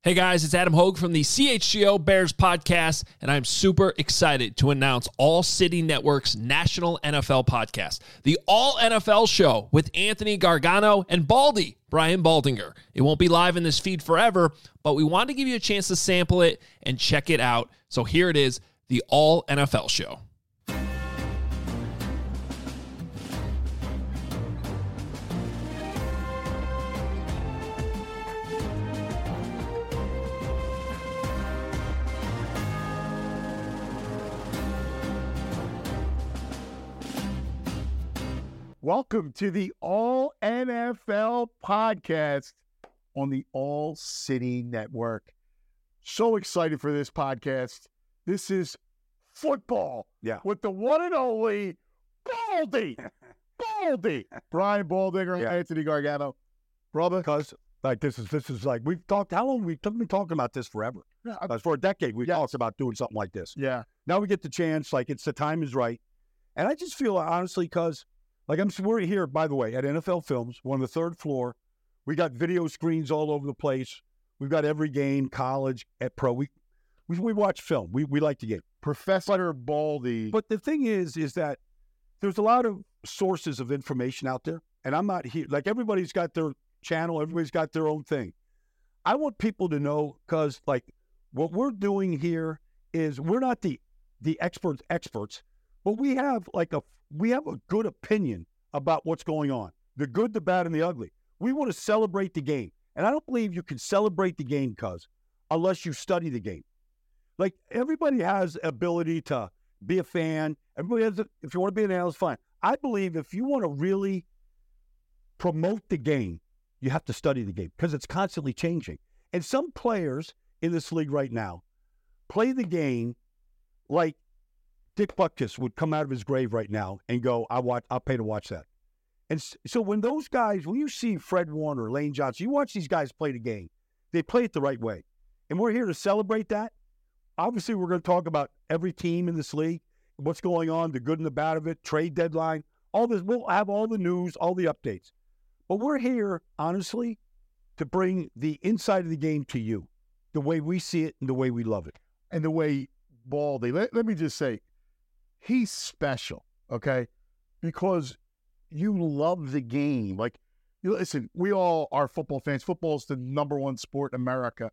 Hey guys, it's Adam Hogue from the CHGO Bears podcast, and I'm super excited to announce All City Network's national NFL podcast, the All NFL Show with Anthony Gargano and Baldy, Brian Baldinger. It won't be live in this feed forever, but we want to give you a chance to sample it and check it out. So here it is, the All NFL Show. Welcome to the All NFL podcast on the All City Network. So excited for this podcast. This is football with the one and only Baldy. Brian Baldinger, Anthony Gargano. Brother. Because like this is like we've talked, how long we've been talking about this forever. For a decade we've talked about doing something like this. Yeah. Now we get the chance, like it's the time is right. And I just feel honestly, because we're here, by the way, at NFL Films. We're on the third floor. We got video screens all over the place. We've got every game, college, at pro. We watch film. We like the game. Professor Baldy. But the thing is that there's a lot of sources of information out there. And I'm not here. Like, everybody's got their channel. Everybody's got their own thing. I want people to know, because, like, what we're doing here is we're not the experts, but we have a good opinion about what's going on, the good, the bad, and the ugly. We want to celebrate the game. And I don't believe you can celebrate the game, unless you study the game. Like, everybody has ability to be a fan. Everybody has, if you want to be an analyst, fine. I believe if you want to really promote the game, you have to study the game, because it's constantly changing. And some players in this league right now play the game like Dick Butkus would come out of his grave right now and go, I'll pay to watch that. And so when you see Fred Warner, Lane Johnson, you watch these guys play the game, they play it the right way. And we're here to celebrate that. Obviously, we're going to talk about every team in this league, what's going on, the good and the bad of it, trade deadline, all this. We'll have all the news, all the updates. But we're here, honestly, to bring the inside of the game to you, the way we see it and the way we love it. And the way Baldy, let me just say, he's special, okay? Because you love the game. Like, listen, we all are football fans. Football is the number one sport in America.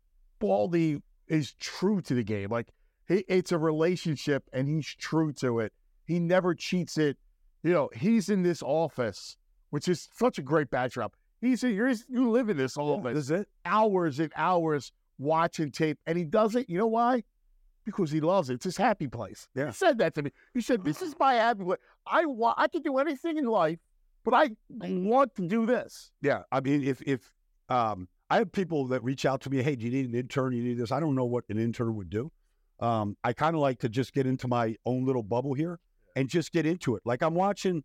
Baldy is true to the game. Like, it's a relationship, and he's true to it. He never cheats it. You know, he's in this office, which is such a great backdrop. You live in this office. This is it. Hours and hours watching tape, and he does it. You know why? Because he loves it. It's his happy place. Yeah. He said that to me. He said, this is my happy place. I can do anything in life, but I want to do this. Yeah. I mean, if I have people that reach out to me, hey, do you need an intern? You need this? I don't know what an intern would do. I kind of like to just get into my own little bubble here and just get into it. Like, I'm watching,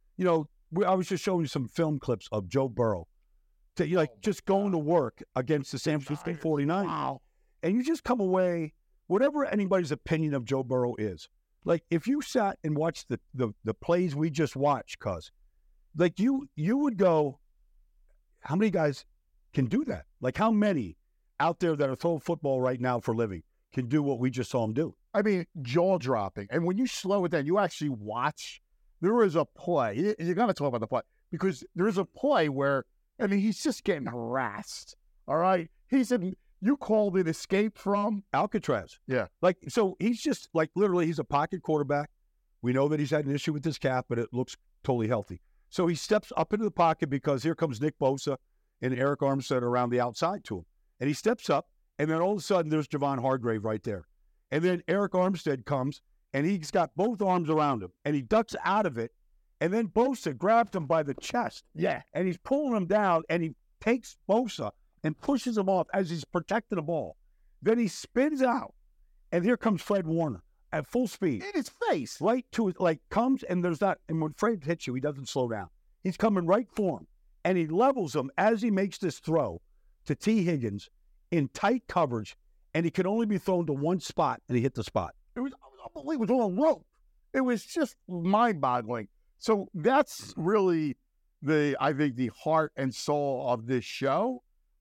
I was just showing you some film clips of Joe Burrow, just going to work against the San Francisco 49ers. Wow. And you just come away, whatever anybody's opinion of Joe Burrow is, like, if you sat and watched the plays we just watched, like, you would go, how many guys can do that? Like, how many out there that are throwing football right now for a living can do what we just saw him do? I mean, jaw-dropping. And when you slow it down, you actually watch. There is a play. You got to talk about the play, because there is a play where, I mean, he's just getting harassed, all right? He said, you called it escape from? Alcatraz. Yeah. Like, so he's just, like, literally, he's a pocket quarterback. We know that he's had an issue with his calf, but it looks totally healthy. So he steps up into the pocket, because here comes Nick Bosa and Eric Armstead around the outside to him. And he steps up, and then all of a sudden, there's Javon Hargrave right there. And then Eric Armstead comes, and he's got both arms around him, and he ducks out of it, and then Bosa grabs him by the chest. Yeah. And he's pulling him down, and he takes Bosa and pushes him off as he's protecting the ball. Then he spins out, and here comes Fred Warner at full speed. In his face. Right to it, like, comes, and there's not, and when Fred hits you, he doesn't slow down. He's coming right for him, and he levels him as he makes this throw to T. Higgins in tight coverage, and he could only be thrown to one spot, and he hit the spot. It was unbelievable. It was on a rope. It was just mind-boggling. So that's really I think the heart and soul of this show.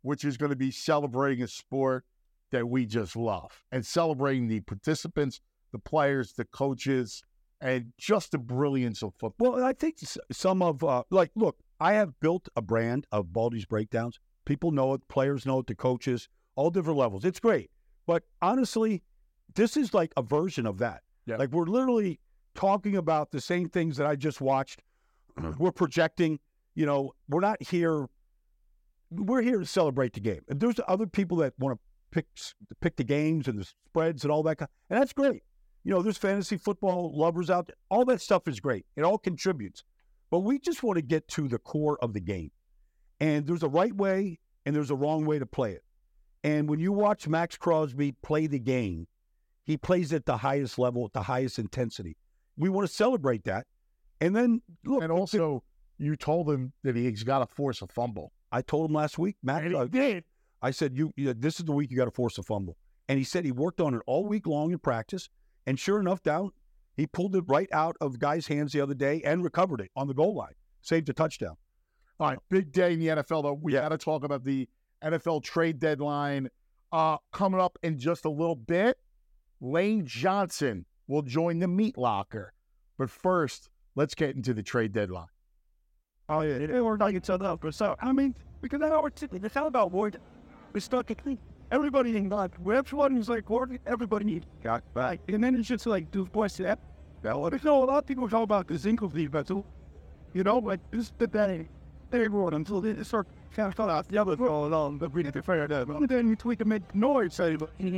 which is going to be celebrating a sport that we just love and celebrating the participants, the players, the coaches, and just the brilliance of football. Well, I think some of, look, I have built a brand of Baldy's Breakdowns. People know it, players know it, the coaches, all different levels. It's great. But honestly, this is like a version of that. Yeah. Like we're literally talking about the same things that I just watched. We're projecting, we're not here. We're here to celebrate the game. And there's other people that want to pick the games and the spreads and all that. And that's great. There's fantasy football lovers out there. All that stuff is great. It all contributes. But we just want to get to the core of the game. And there's a right way and there's a wrong way to play it. And when you watch Max Crosby play the game, he plays at the highest level, at the highest intensity. We want to celebrate that. And then, look. And also, you told him that he's got to force a fumble. I told him last week, Max. And he did. I said, this is the week you got to force a fumble. And he said he worked on it all week long in practice. And sure enough, he pulled it right out of guys' hands the other day and recovered it on the goal line. Saved a touchdown. All right, big day in the NFL, though. We got to talk about the NFL trade deadline coming up in just a little bit. Lane Johnson will join the meat locker. But first, let's get into the trade deadline. Oh, yeah, we're not each other up. So, because it's all about word. We start to think everybody in God, everyone is like, everybody needs God, right? And then it's just like, do boys that? Well, a lot of people talk about the Zinkel defense, like this is the day. Everyone until they start kind of out the other going on, but we need to figure that out. And then we can make noise, say,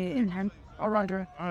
all right.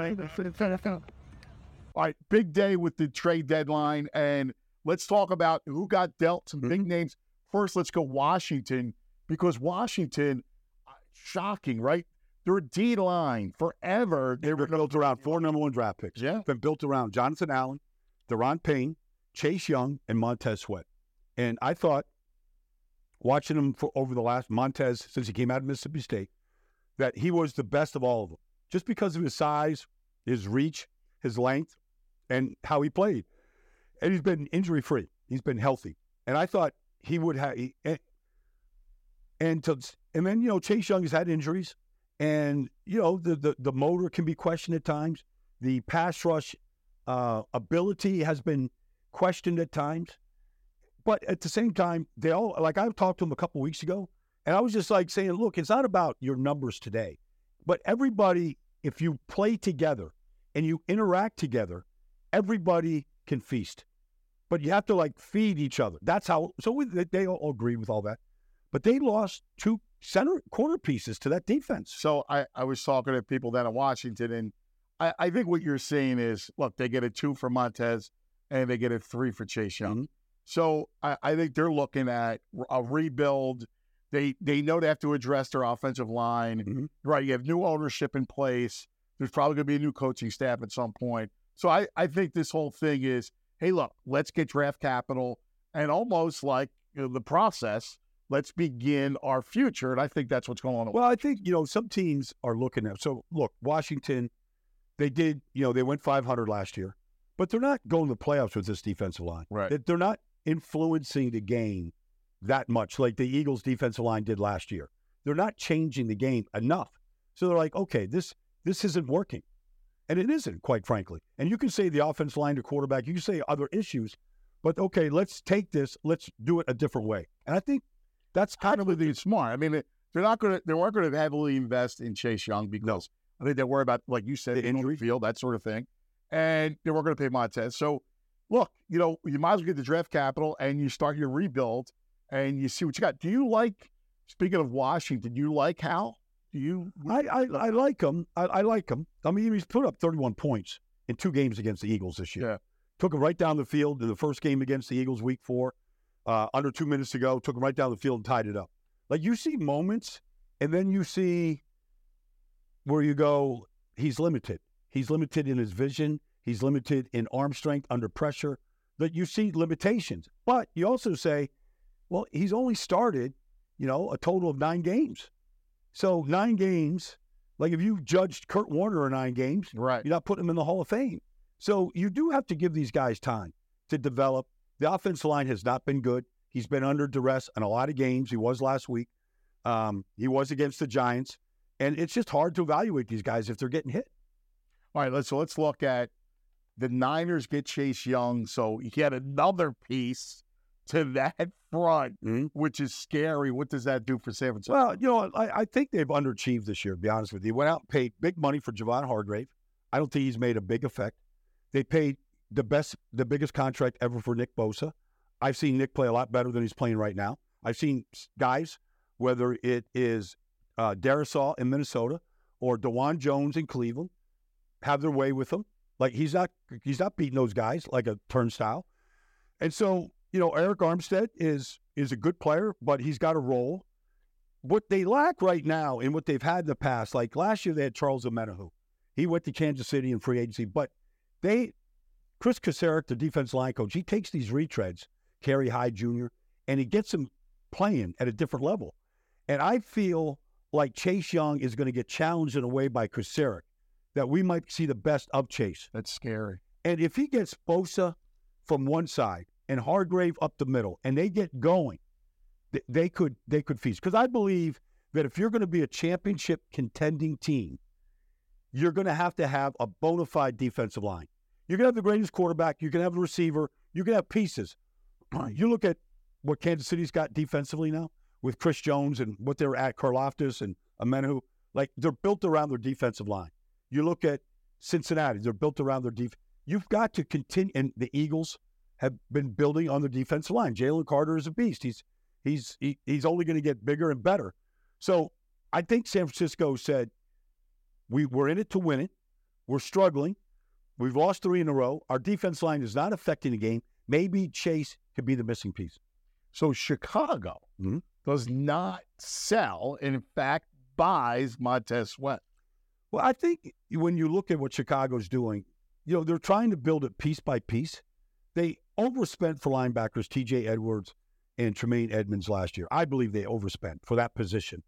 All right, big day with the trade deadline, and let's talk about who got dealt some big names. First, let's go Washington, because Washington, shocking, right? Their D-line forever. They were built around 4 number 1 draft picks. Yeah. Been built around Jonathan Allen, Deron Payne, Chase Young, and Montez Sweat. And I thought, watching him over the last Montez, since he came out of Mississippi State, that he was the best of all of them. Just because of his size, his reach, his length, and how he played. And he's been injury-free. He's been healthy. And I thought he would have and then, Chase Young has had injuries. And, the motor can be questioned at times. The pass rush ability has been questioned at times. But at the same time, they all, like I talked to him a couple weeks ago, and I was just like saying, look, it's not about your numbers today. But everybody, if you play together and you interact together, everybody can feast. But you have to, feed each other. That's how, they all agree with all that. But they lost 2 corner pieces to that defense. So I was talking to people down in Washington, and I think what you're saying is, look, they get a 2 for Montez, and they get a 3 for Chase Young. Mm-hmm. So I think they're looking at a rebuild. They know they have to address their offensive line. Mm-hmm. Right, you have new ownership in place. There's probably going to be a new coaching staff at some point. So I think this whole thing is, hey, look, let's get draft capital, and almost like the process, let's begin our future. And I think that's what's going on. Well, I think, some teams are looking at, so look, Washington, they did, they went 500 last year, but they're not going to the playoffs with this defensive line. Right. They're not influencing the game that much like the Eagles defensive line did last year. They're not changing the game enough. So they're like, okay, this isn't working. And it isn't, quite frankly. And you can say the offensive line to quarterback, you can say other issues, but okay, let's take this, let's do it a different way. And I think that's kind of really smart. I mean, they weren't going to heavily invest in Chase Young because I think they worry about, like you said, the injury field, that sort of thing. And they weren't going to pay Montez. So look, you might as well get the draft capital and you start your rebuild and you see what you got. Do you like, speaking of Washington, do you like Hal? Do you? I like him. I like him. I mean, he's put up 31 points in 2 games against the Eagles this year. Yeah. Took him right down the field in the first game against the Eagles week 4. Under 2 minutes to go, took him right down the field and tied it up. Like, you see moments, and then you see where you go, he's limited. He's limited in his vision. He's limited in arm strength under pressure. That you see limitations. But you also say, well, he's only started, a total of 9 games. So 9 games, like if you judged Kurt Warner in 9 games, right, you're not putting him in the Hall of Fame. So you do have to give these guys time to develop. The offensive line has not been good. He's been under duress in a lot of games. He was last week. He was against the Giants. And it's just hard to evaluate these guys if they're getting hit. All right, let's look at the Niners get Chase Young. So you get another piece to that front, which is scary. What does that do for San Francisco? Well, you know, I think they've underachieved this year, to be honest with you. Went out and paid big money for Javon Hargrave. I don't think he's made a big effect. They paid the biggest contract ever for Nick Bosa. I've seen Nick play a lot better than he's playing right now. I've seen guys, whether it is Darisaw in Minnesota or DeJuan Jones in Cleveland, have their way with him. Like he's not beating those guys like a turnstile. And so, you know, Eric Armstead is a good player, but he's got a role. What they lack right now and what they've had in the past, like last year they had Charles Omenihu. He went to Kansas City in free agency, but Chris Kacerek, the defense line coach, he takes these retreads, Kerry Hyde Jr., and he gets them playing at a different level. And I feel like Chase Young is going to get challenged in a way by Kacerek that we might see the best of Chase. That's scary. And if he gets Bosa from one side and Hargrave up the middle, and they get going, they could feast. Because I believe that if you're going to be a championship contending team, you're going to have a bona fide defensive line. You're going to have the greatest quarterback. You're going to have a receiver. You're going to have pieces. You look at what Kansas City's got defensively now with Chris Jones and what they're at, Karlaftis and Omenihu. Like, they're built around their defensive line. You look at Cincinnati, they're built around their defense. You've got to continue, and the Eagles have been building on their defensive line. Jalen Carter is a beast. He's only going to get bigger and better. So I think San Francisco said, we're in it to win it. We're struggling. We've lost 3 in a row. Our defense line is not affecting the game. Maybe Chase could be the missing piece. So Chicago does not sell, and in fact buys Montez Sweat. Well, I think when you look at what Chicago's doing, you know, they're trying to build it piece by piece. They overspent for linebackers T.J. Edwards and Tremaine Edmonds last year. I believe they overspent for that position.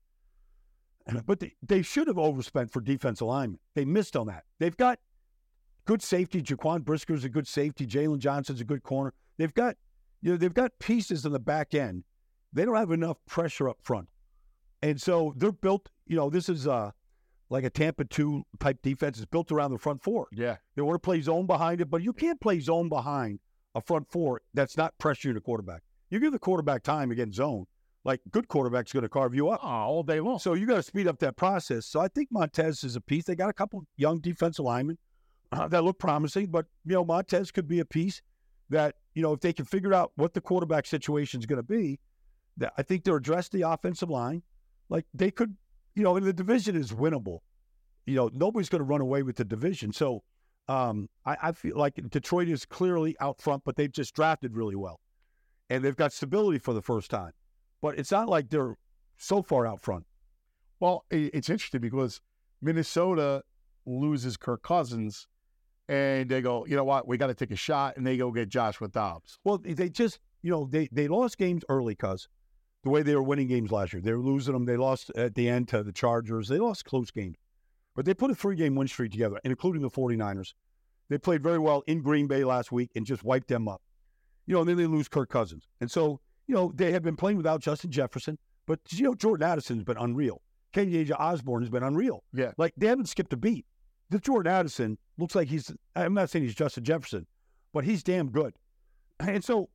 But they should have overspent for defensive linemen. They missed on that. They've got good safety. Jaquan Brisker's a good safety. Jalen Johnson's a good corner. They've got pieces in the back end. They don't have enough pressure up front. And so they're built, you know, this is like a Tampa 2 type defense. It's built around the front four. Yeah. They want to play zone behind it, but you can't play zone behind a front four that's not pressuring the quarterback. You give the quarterback time against zone, like good quarterback's going to carve you up. All day long. So you got to speed up that process. So I think Montez is a piece. They got a couple young defensive linemen that look promising, but, you know, Montez could be a piece that, you know, if they can figure out what the quarterback situation is going to be, that I think they'll address the offensive line. Like they could, you know, and the division is winnable. You know, nobody's going to run away with the division. So I feel like Detroit is clearly out front, but they've just drafted really well. And they've got stability for the first time. But it's not like they're so far out front. Well, it's interesting because Minnesota loses Kirk Cousins, and they go, you know what, we got to take a shot, and they go get Joshua Dobbs. Well, they just, you know, they lost games early because the way they were winning games last year. They were losing them. They lost at the end to the Chargers. They lost close games. But they put a 3-game win streak together, and including the 49ers. They played very well in Green Bay last week and just wiped them up. You know, and then they lose Kirk Cousins. And so, you know, they have been playing without Justin Jefferson, but, you know, Jordan Addison's been unreal. KJ Osborne has been unreal. Yeah. Like, they haven't skipped a beat. The Jordan Addison looks like I'm not saying he's Justin Jefferson, but he's damn good. And so,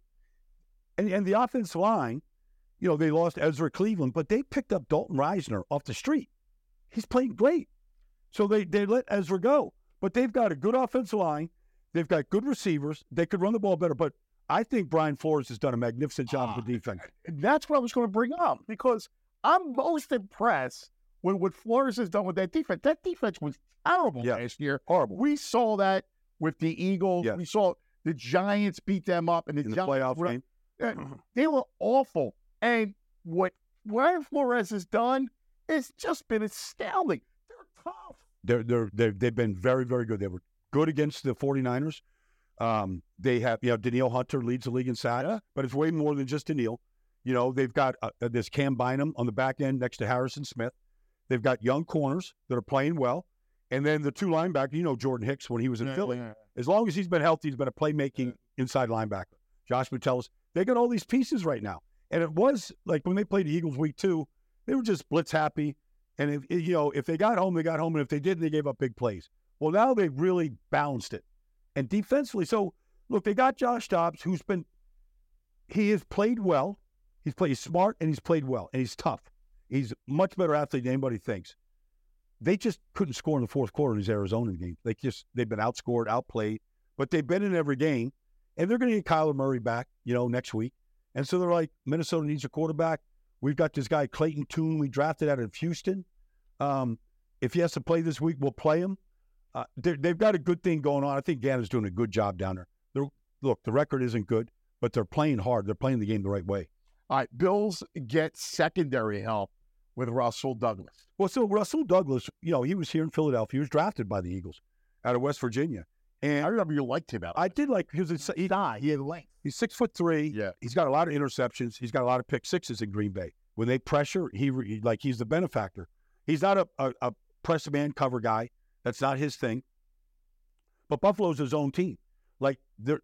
and the offensive line, you know, they lost Ezra Cleveland, but they picked up Dalton Reisner off the street. He's playing great. So they let Ezra go. But they've got a good offensive line. They've got good receivers. They could run the ball better. But I think Brian Flores has done a magnificent job with defense. That's what I was going to bring up because I'm most impressed with what Flores has done with that defense. That defense was terrible last year. Horrible. We saw that with the Eagles. Yes. We saw the Giants beat them up. And In the playoff game. They were awful. And what Brian Flores has done has just been astounding. They're tough. They've been very, very good. They were good against the 49ers. They have, you know, Danielle Hunter leads the league in sacks, but it's way more than just Danielle. You know, they've got this Cam Bynum on the back end next to Harrison Smith. They've got young corners that are playing well. And then the 2 linebackers, you know, Jordan Hicks when he was in Philly. Yeah. As long as he's been healthy, he's been a playmaking inside linebacker. Josh Metellus. They got all these pieces right now. And it was like when they played the Eagles week 2, They were just blitz happy. And if they got home, they got home. And if they didn't, they gave up big plays. Well, now they've really balanced it. And defensively, so look, they got Josh Dobbs, he has played well. He's smart and he's played well. And he's tough. He's a much better athlete than anybody thinks. They just couldn't score in the fourth quarter in these Arizona games. They've been outscored, outplayed, but they've been in every game. And they're going to get Kyler Murray back, next week. And so they're like, Minnesota needs a quarterback. We've got this guy, Clayton Tune, we drafted out of Houston. If he has to play this week, we'll play him. They've got a good thing going on. I think Ganon's doing a good job down there. Look, the record isn't good, but they're playing hard. They're playing the game the right way. All right, Bills get secondary help with Russell Douglas. Well, so Russell Douglas, he was here in Philadelphia. He was drafted by the Eagles out of West Virginia. And I remember you liked him out. I did like he had length. He's 6'3". Yeah, he's got a lot of interceptions. He's got a lot of pick sixes in Green Bay. When they pressure, he's the benefactor. He's not a press man cover guy. That's not his thing. But Buffalo's his own team. They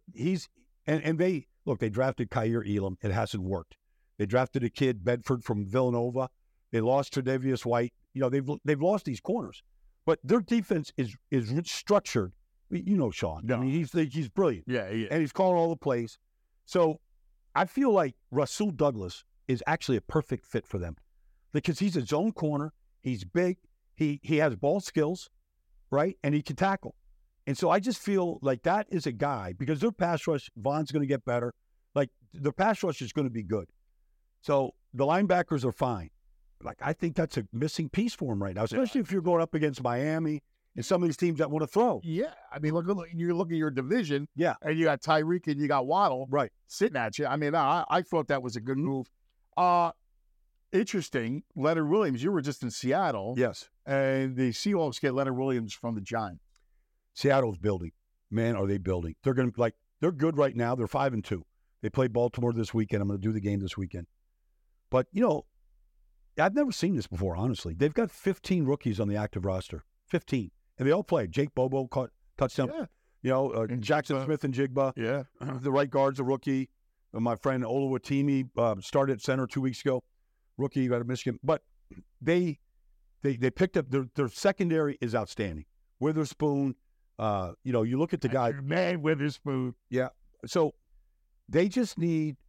drafted Kaiir Elam. It hasn't worked. They drafted a kid, Bedford, from Villanova. They lost Tre'Davious White. They've lost these corners. But their defense is structured. Sean. No. I mean, he's brilliant. Yeah. And he's calling all the plays. So I feel like Russell Douglas is actually a perfect fit for them because he's a zone corner. He's big. He has ball skills, right? And he can tackle. And so I just feel like that is a guy because their pass rush, Vaughn's going to get better. The pass rush is going to be good. So the linebackers are fine. I think that's a missing piece for him right now, especially if you're going up against Miami and some of these teams that want to throw. Yeah. I mean, you look at your division. Yeah. And you got Tyreek and you got Waddle. Right. Sitting at you. I mean, I thought that was a good move. Interesting. Leonard Williams, you were just in Seattle. Yes. And the Seahawks get Leonard Williams from the Giants. Seattle's building. Man, are they building. They're going to they're good right now. They're 5-2. They play Baltimore this weekend. I'm going to do the game this weekend. But, I've never seen this before, honestly. They've got 15 rookies on the active roster. 15. And they all played. Jake Bobo caught touchdown. Yeah. And Jackson Smith and Jigba. Yeah. The right guard's a rookie. My friend Oluwatimi started at center 2 weeks ago. Rookie out of Michigan. But they picked up their secondary is outstanding. Witherspoon, you look at the guy. Man, Witherspoon. Yeah. So they just need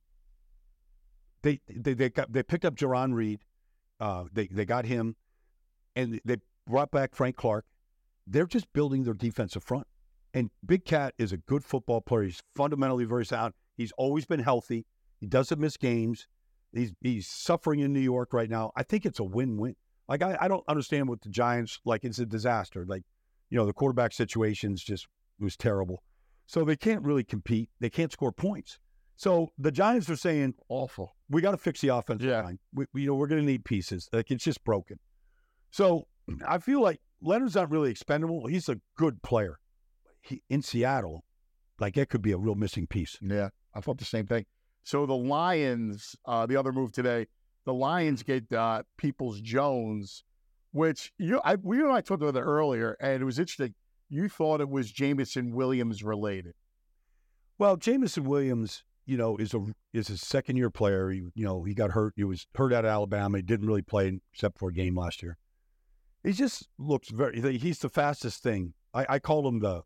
they picked up Jaron Reed. They got him and they brought back Frank Clark. They're just building their defensive front. And Big Cat is a good football player. He's fundamentally very sound. He's always been healthy. He doesn't miss games. He's suffering in New York right now. I think it's a win-win. I don't understand what the Giants, it's a disaster. The quarterback situations just was terrible. So they can't really compete. They can't score points. So the Giants are saying, awful. We got to fix the offensive line. We're going to need pieces. It's just broken. So I feel like Leonard's not really expendable. He's a good player. In Seattle, it could be a real missing piece. Yeah, I thought the same thing. So the Lions, the other move today, the Lions get Peoples-Jones, which we and I talked about it earlier, and it was interesting. You thought it was Jameson Williams related. Well, Jameson Williams, is a second-year player. He got hurt. He was hurt out of Alabama. He didn't really play except for a game last year. He just looks he's the fastest thing. I call him the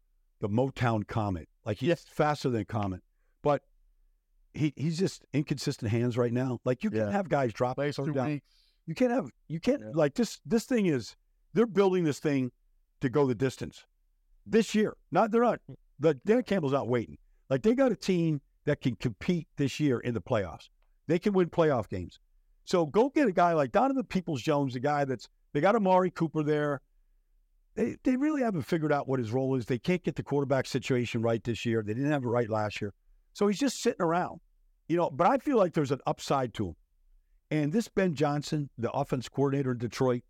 Motown Comet. He's faster than Comet. But he's just inconsistent hands right now. You can't have guys drop down. You can't this thing is, they're building this thing to go the distance this year. Dan Campbell's not waiting. They got a team that can compete this year in the playoffs. They can win playoff games. So go get a guy like Donovan Peoples-Jones, a guy they got Amari Cooper there. They really haven't figured out what his role is. They can't get the quarterback situation right this year. They didn't have it right last year. So he's just sitting around, but I feel like there's an upside to him. And this Ben Johnson, the offense coordinator in Detroit,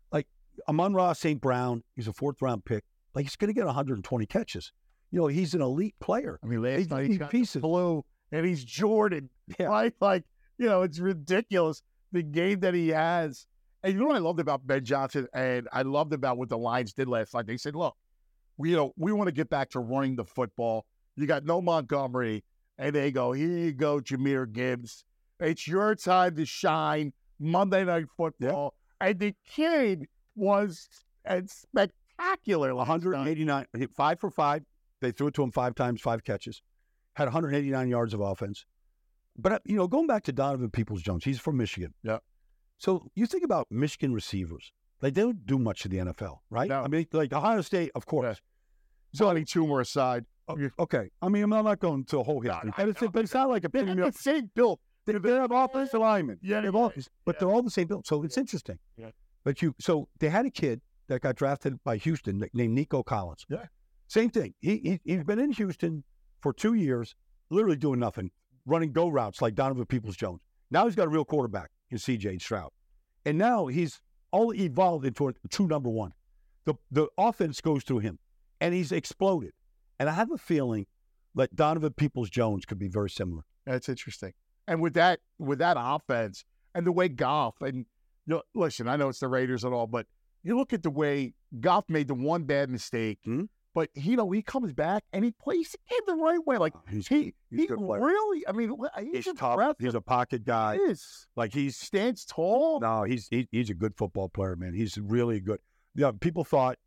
Amon-Ra St. Brown, he's a 4th-round pick. He's going to get 120 catches. He's an elite player. I mean, last night he's got pieces. Blue, and he's Jordan. Yeah. Right? It's ridiculous, the game that he has. And you know what I loved about Ben Johnson, and I loved about what the Lions did last night? They said, look, we want to get back to running the football. You got no Montgomery, and they go, here you go, Jahmyr Gibbs. It's your time to shine. Monday Night Football, and the kid was spectacular. 189, 5 for 5. They threw it to him 5 times, 5 catches. Had 189 yards of offense. But, going back to Donovan Peoples-Jones, he's from Michigan. Yeah. So you think about Michigan receivers. Like, they don't do much in the NFL, right? No. I mean, like Ohio State, of course. Johnny Toomer aside. Okay. I mean, I'm not going to a whole history. But it's not like a They're the same build. They have offensive linemen. Yeah, they're all the same build. So it's interesting. Yeah. But so they had a kid that got drafted by Houston named Nico Collins. Yeah. Same thing. He's been in Houston for 2 years, literally doing nothing, running go routes like Donovan Peoples-Jones. Now he's got a real quarterback in C.J. Stroud. And now he's all evolved into a true number one. The offense goes through him, and he's exploded. And I have a feeling that Donovan Peoples-Jones could be very similar. That's interesting. And with that offense and the way Goff, and listen, I know it's the Raiders and all, but you look at the way Goff made the one bad mistake, but he comes back and he plays the game the right way. Like He's he a good player. really, I mean, He's just tough. He's a pocket guy. He is. Like He stands tall. No, he's a good football player, man. He's really good. Yeah, people thought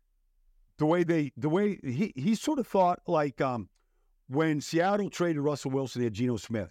the way he sort of thought like when Seattle traded Russell Wilson, they had Geno Smith.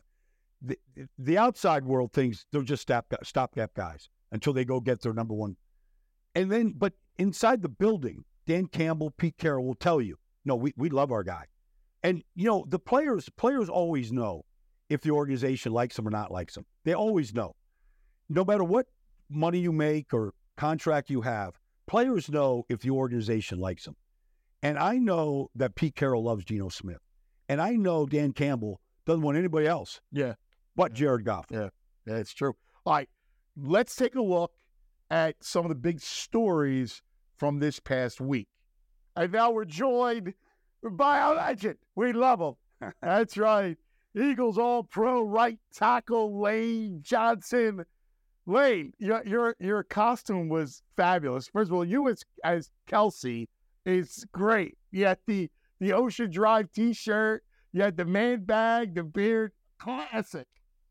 The outside world thinks they're just stopgap guys until they go get their number one. And then, but inside the building, Dan Campbell, Pete Carroll will tell you, no, we love our guy. And, the players always know if the organization likes them or not likes them. They always know. No matter what money you make or contract you have, players know if the organization likes them. And I know that Pete Carroll loves Geno Smith. And I know Dan Campbell doesn't want anybody else. Yeah. But Jared Goff. Yeah, it's true. All right, let's take a look at some of the big stories from this past week. And now we're joined by our legend. We love him. That's right. Eagles All-Pro right tackle Lane Johnson. Lane, your costume was fabulous. First of all, you as Kelsey is great. You had the Ocean Drive T-shirt. You had the man bag, the beard. Classic.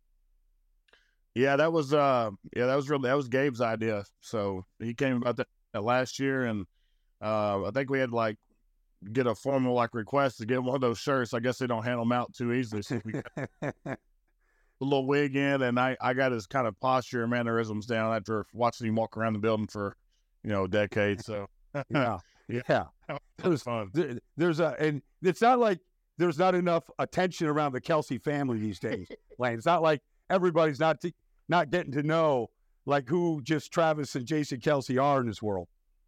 Yeah, that was Gabe's idea. So he came about that last year, and I think we had to get a formal request to get one of those shirts. I guess they don't hand them out too easily. So we got a little wig in, and I got his kind of posture and mannerisms down after watching him walk around the building for a decade. So yeah, that was fun. And it's not like there's not enough attention around the Kelsey family these days, Lane. It's not like everybody's not getting to know who just Travis and Jason Kelsey are in this world.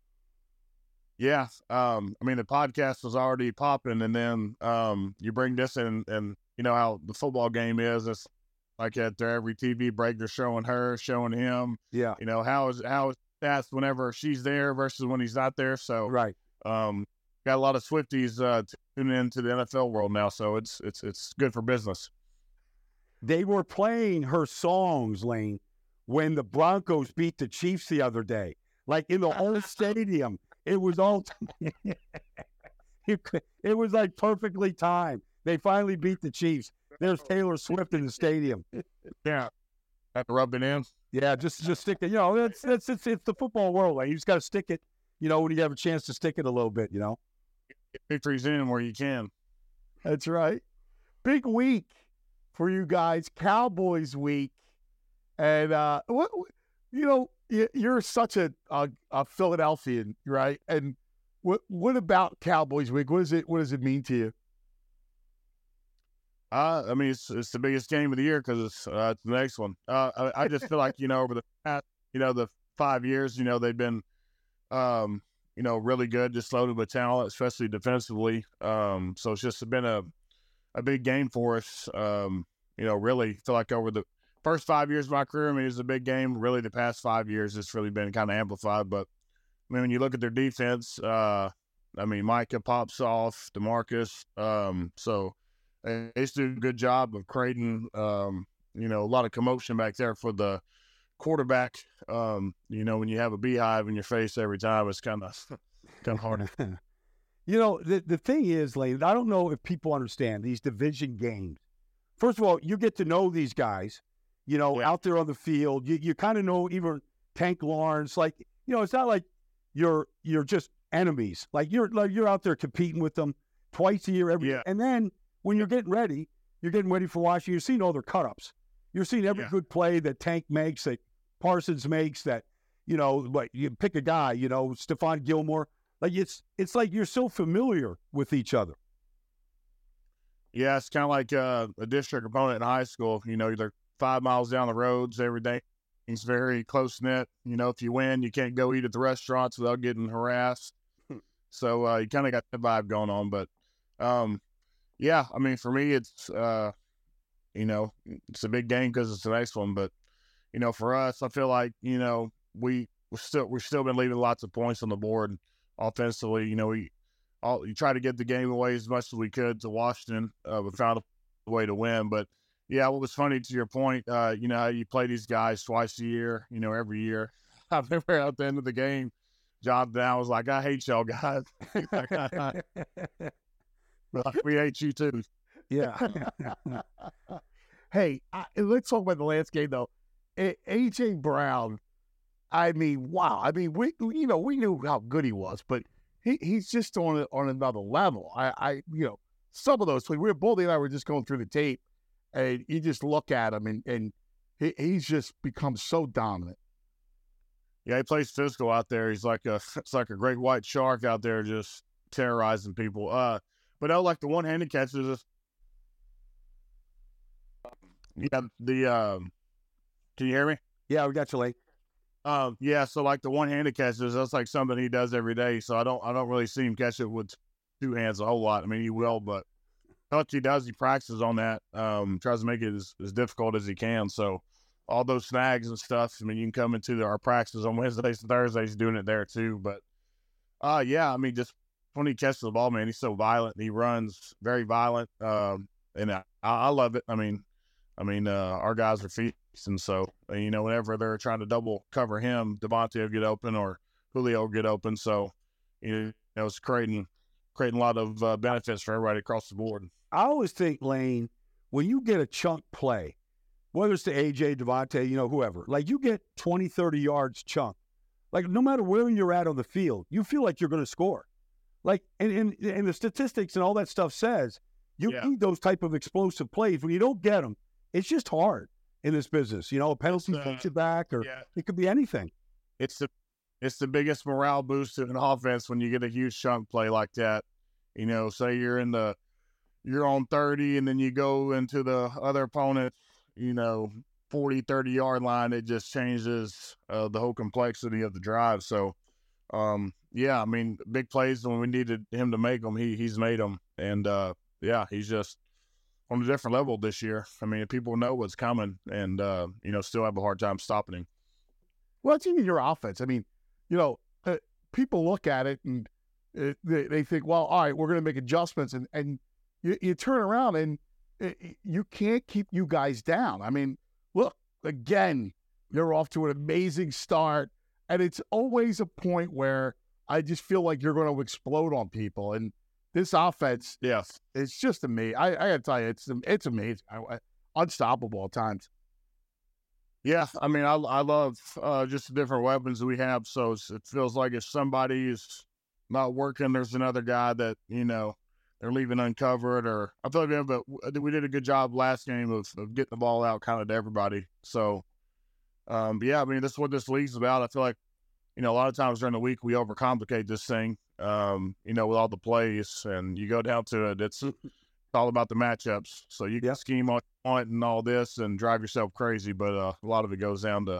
Yeah. I mean, the podcast was already popping, and then you bring this in, and you know how the football game is. It's like at every TV break, they're showing her, showing him. Yeah. How is stats whenever she's there versus when he's not there. So right. Got a lot of Swifties tuning into the NFL world now, so it's good for business. They were playing her songs, Lane, when the Broncos beat the Chiefs the other day. In the whole stadium, it was all it was perfectly timed. They finally beat the Chiefs. There's Taylor Swift in the stadium. Yeah, have to rub it in. Yeah, just stick it. It's the football world. You just got to stick it. When you have a chance to stick it a little bit. Get victories in where you can. That's right. Big week for you guys, Cowboys week, and you're such a Philadelphian, right? And what about Cowboys week? What does it mean to you? I mean, it's the biggest game of the year because it's the next one. I just feel like over the past the 5 years, they've been really good, just loaded with talent, especially defensively. So it's just been a big game for us. Really feel like over the first 5 years of my career, I mean, it's a big game. Really, the past 5 years, it's really been kind of amplified. But I mean, when you look at their defense, Micah pops off, DeMarcus. So they just do a good job of creating, a lot of commotion back there for the quarterback. When you have a beehive in your face every time, it's kind of hard. The thing is, Lane, I don't know if people understand these division games. First of all, you get to know these guys. out there on the field. You kind of know even Tank Lawrence. Like, it's not like you're just enemies. Like you're out there competing with them twice a year every year. And then when you're getting ready for Washington, you're seeing all their cut-ups. You're seeing every good play that Tank makes, that Parsons makes, that, like you pick a guy, Stephon Gilmore. Like it's like you're so familiar with each other. Yeah, it's kind of like a district opponent in high school. They're 5 miles down the roads every day. It's very close-knit. If you win, you can't go eat at the restaurants without getting harassed. So you kind of got the vibe going on. But, yeah, I mean, for me, it's, it's a big game because it's the next one. But, for us, I feel like, we've still been leaving lots of points on the board offensively. You try to get the game away as much as we could to Washington. We found a way to win. But, yeah, what was funny to your point, how you play these guys twice a year, every year. I remember at the end of the game, John Down was like, I hate y'all guys. We hate you too. Yeah. Hey, let's talk about the last game, though. A.J. Brown, I mean, wow. I mean, we knew how good he was, but he's just on another level. Some of those, Baldy and I were just going through the tape, and you just look at him, and he's just become so dominant. Yeah, he plays physical out there. He's like it's like a great white shark out there, just terrorizing people. But like the one-handed catches, can you hear me? Yeah, we got you, Lake. Yeah, so like the one-handed catches, that's like something he does every day. So I don't really see him catch it with two hands a whole lot. I mean, he will, but what he does, he practices on that. Tries to make it as difficult as he can. So all those snags and stuff, I mean, you can come into our practices on Wednesdays and Thursdays doing it there too. But yeah, I mean, just when he catches the ball, man, he's so violent. He runs very violent, and I love it. I mean, our guys are feasting, so whenever they're trying to double cover him, Devontae will get open or Julio will get open. So it's creating a lot of benefits for everybody across the board. I always think, Lane, when you get a chunk play, whether it's to AJ, Devontae, whoever, like you get 20, 30 yards chunk, like no matter where you're at on the field, you feel like you're going to score. Like, and the statistics and all that stuff says you need those type of explosive plays. When you don't get them, it's just hard in this business. A penalty takes you back, or it could be anything. It's the biggest morale boost to an offense when you get a huge chunk play like that. Say you're on 30 and then you go into the other opponent, 40, 30-yard line. It just changes the whole complexity of the drive. So, yeah, I mean, big plays when we needed him to make them, he's made them. And, yeah, he's just on a different level this year. I mean, people know what's coming and, still have a hard time stopping him. Well, it's even your offense. I mean, people look at it and they think, well, all right, we're going to make adjustments. And you turn around and you can't keep you guys down. I mean, look, again, you're off to an amazing start. And it's always a point where I just feel like you're going to explode on people. And this offense, yes, it's just amazing. I got to tell you, it's amazing. Unstoppable at times. Yeah, I mean, I love just the different weapons we have. So it feels like if somebody is not working, there's another guy that, they're leaving uncovered. Or I feel like we did a good job last game of getting the ball out kind of to everybody. So, yeah, I mean, that's what this league's about. I feel like, a lot of times during the week we overcomplicate this thing, with all the plays. And you go down to it, it's all about the matchups. So you can scheme on it and all this and drive yourself crazy, but a lot of it goes down to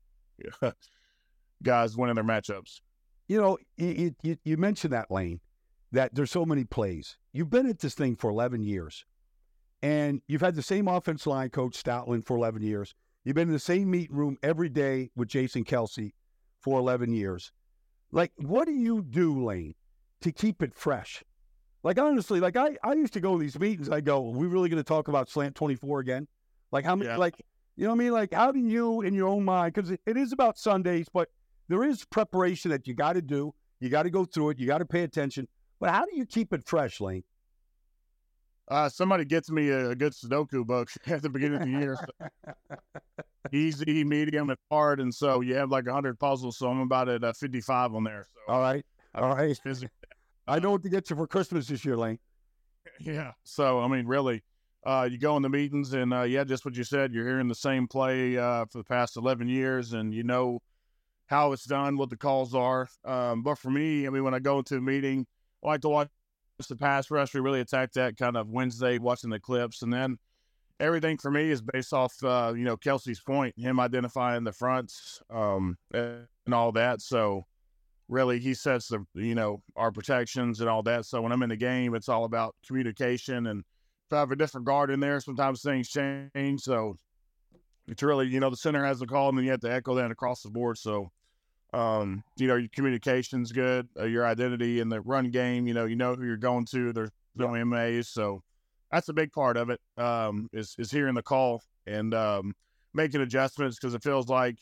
guys winning their matchups. You mentioned that, Lane, that there's so many plays. You've been at this thing for 11 years, and you've had the same offensive line coach, Stoutland, for 11 years. You've been in the same meeting room every day with Jason Kelsey for 11 years. Like, what do you do, Lane, to keep it fresh? Like, honestly, like I used to go to these meetings. I go, are we really going to talk about Slant 24 again? Like, how many, like, you know what I mean? Like, how do you, in your own mind, because it is about Sundays, but there is preparation that you got to do. You got to go through it. You got to pay attention. But how do you keep it fresh, Lane? Somebody gets me a good Sudoku book at the beginning of the year. So easy, medium, and hard, and so you have like 100 puzzles. So I'm about at 55 on there. So All right. physically, I know what to get you for Christmas this year, Lane. yeah. So I mean, really, you go in the meetings, and yeah, just what you said. You're hearing the same play for the past 11 years, and you know how it's done, what the calls are. But for me, I mean, when I go into a meeting, I like to watch the pass rush. We really attack that kind of Wednesday, watching the clips, and then everything for me is based off, Kelsey's point, him identifying the fronts and all that. So really, he sets our protections and all that. So when I'm in the game, it's all about communication. And if I have a different guard in there, sometimes things change. So it's really, the center has the call, and then you have to echo that across the board. So, your communication's good, your identity in the run game, you know who you're going to. There's no MAs. So that's a big part of it, is hearing the call and making adjustments, because it feels like,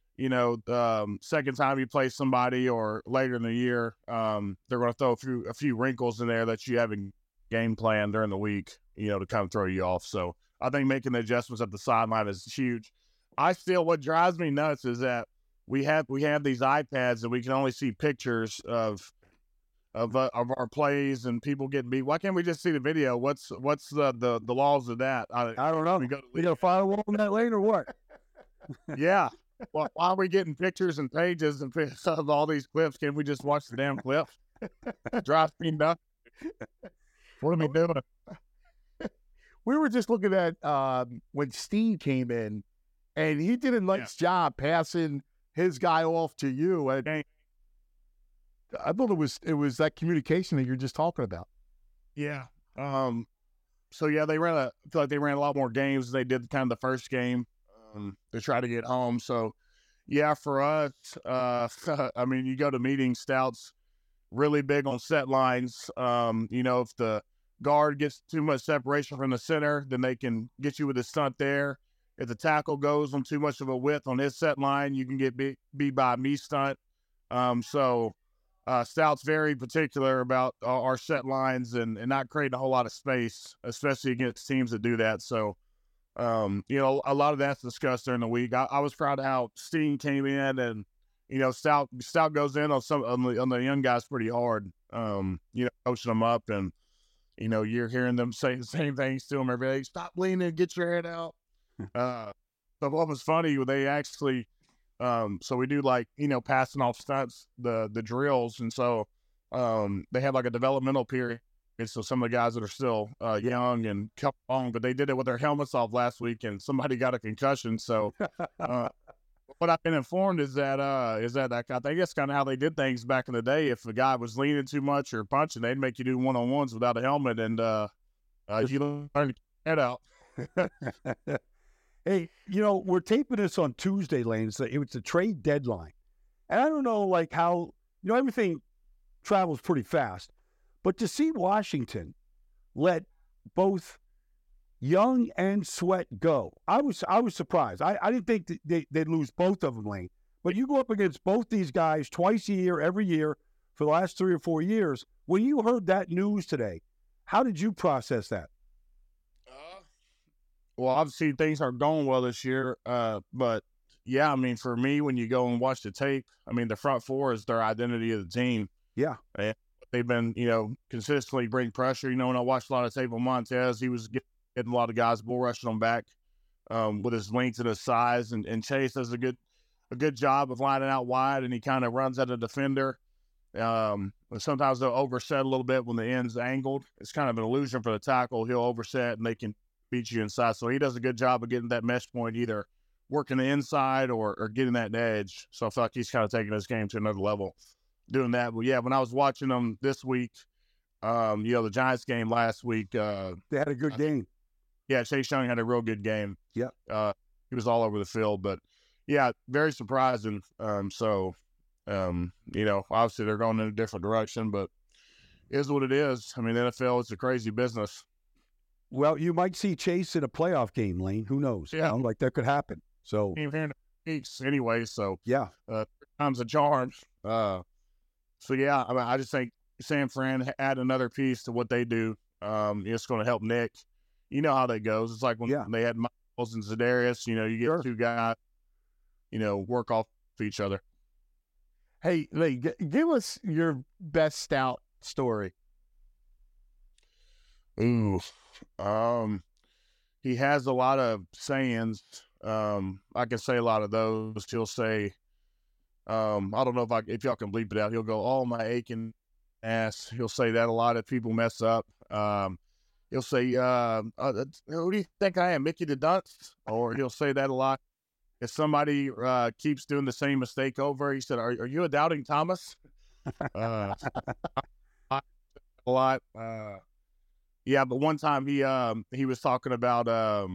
second time you play somebody or later in the year, they're going to throw a few wrinkles in there that you haven't game plan during the week, to kind of throw you off. So I think making the adjustments at the sideline is huge. What drives me nuts is that we have these iPads and we can only see pictures of our plays and people getting beat. Why can't we just see the video? What's the laws of that? I don't know. We got a firewall on that, Lane, or what? Yeah. Well, why are we getting pictures and pages of all these clips? Can't we just watch the damn clip? Drives me nuts. What are we doing? We were just looking at when Steen came in, and he did a nice job passing his guy off to you. And I thought it was that communication that you're just talking about. Yeah. So yeah, I feel like they ran a lot more games than they did kind of the first game to try to get home. So yeah, for us, I mean, you go to meetings, Stout's really big on set lines. If the guard gets too much separation from the center, then they can get you with a stunt there. If the tackle goes on too much of a width on his set line, you can get beat by a me stunt. Stout's very particular about our set lines and not creating a whole lot of space, especially against teams that do that. So, a lot of that's discussed during the week. I was proud of how Steen came in, and Stout goes in on the young guys pretty hard. Coaching them up, and you're hearing them say the same things to them every day. Stop leaning, get your head out. But what was funny, they actually, so we do passing off stunts, the drills. And so, they have like a developmental period. And so some of the guys that are still, young and come along, but they did it with their helmets off last week and somebody got a concussion. So, what I've been informed is that I think that's kind of how they did things back in the day. If a guy was leaning too much or punching, they'd make you do one-on-ones without a helmet, and you learn to get your head out. Hey, we're taping this on Tuesday, Lane. So it was the trade deadline, and I don't know how everything travels pretty fast, but to see Washington let both Young and Sweat go, I was surprised. I didn't think they'd lose both of them, Lane. But you go up against both these guys twice a year, every year for the last 3 or 4 years. When you heard that news today, how did you process that? Well, obviously things aren't going well this year, but yeah, I mean, for me, when you go and watch the tape, I mean, the front four is their identity of the team. Yeah. And they've been, consistently bring pressure. When I watched a lot of tape on Montez, he was getting a lot of guys bull rushing them back with his length and his size, and Chase does a good job of lining out wide, and he kind of runs at a defender. Sometimes they'll overset a little bit when the end's angled. It's kind of an illusion for the tackle. He'll overset, and they can beat you inside. So he does a good job of getting that mesh point, either working the inside or getting that edge. So I feel like he's kind of taking his game to another level doing that. But yeah, when I was watching them this week, the Giants game last week, they had a good game. Yeah, Chase Young had a real good game. Yeah. He was all over the field, but yeah, very surprising. Obviously they're going in a different direction, but it is what it is. I mean, the NFL is a crazy business. Well, you might see Chase in a playoff game, Lane. Who knows? Yeah. That could happen. So weeks anyway. So yeah, time's a charm. So yeah, I mean, I just think San Fran add another piece to what they do. It's going to help Nick. You know how that goes. It's like when they had Miles and Za'Darius. You get two guys, work off each other. Hey, Lee, give us your best stout story. Ooh, he has a lot of sayings. I can say a lot of those. He'll say, I don't know if y'all can bleep it out. He'll go, "Oh, my aching ass." He'll say that a lot if people mess up. He'll say, "Who do you think I am, Mickey the Dunce?" Or he'll say that a lot. If somebody keeps doing the same mistake over, he said, "Are you a doubting Thomas?" A lot. Yeah, but one time he was talking about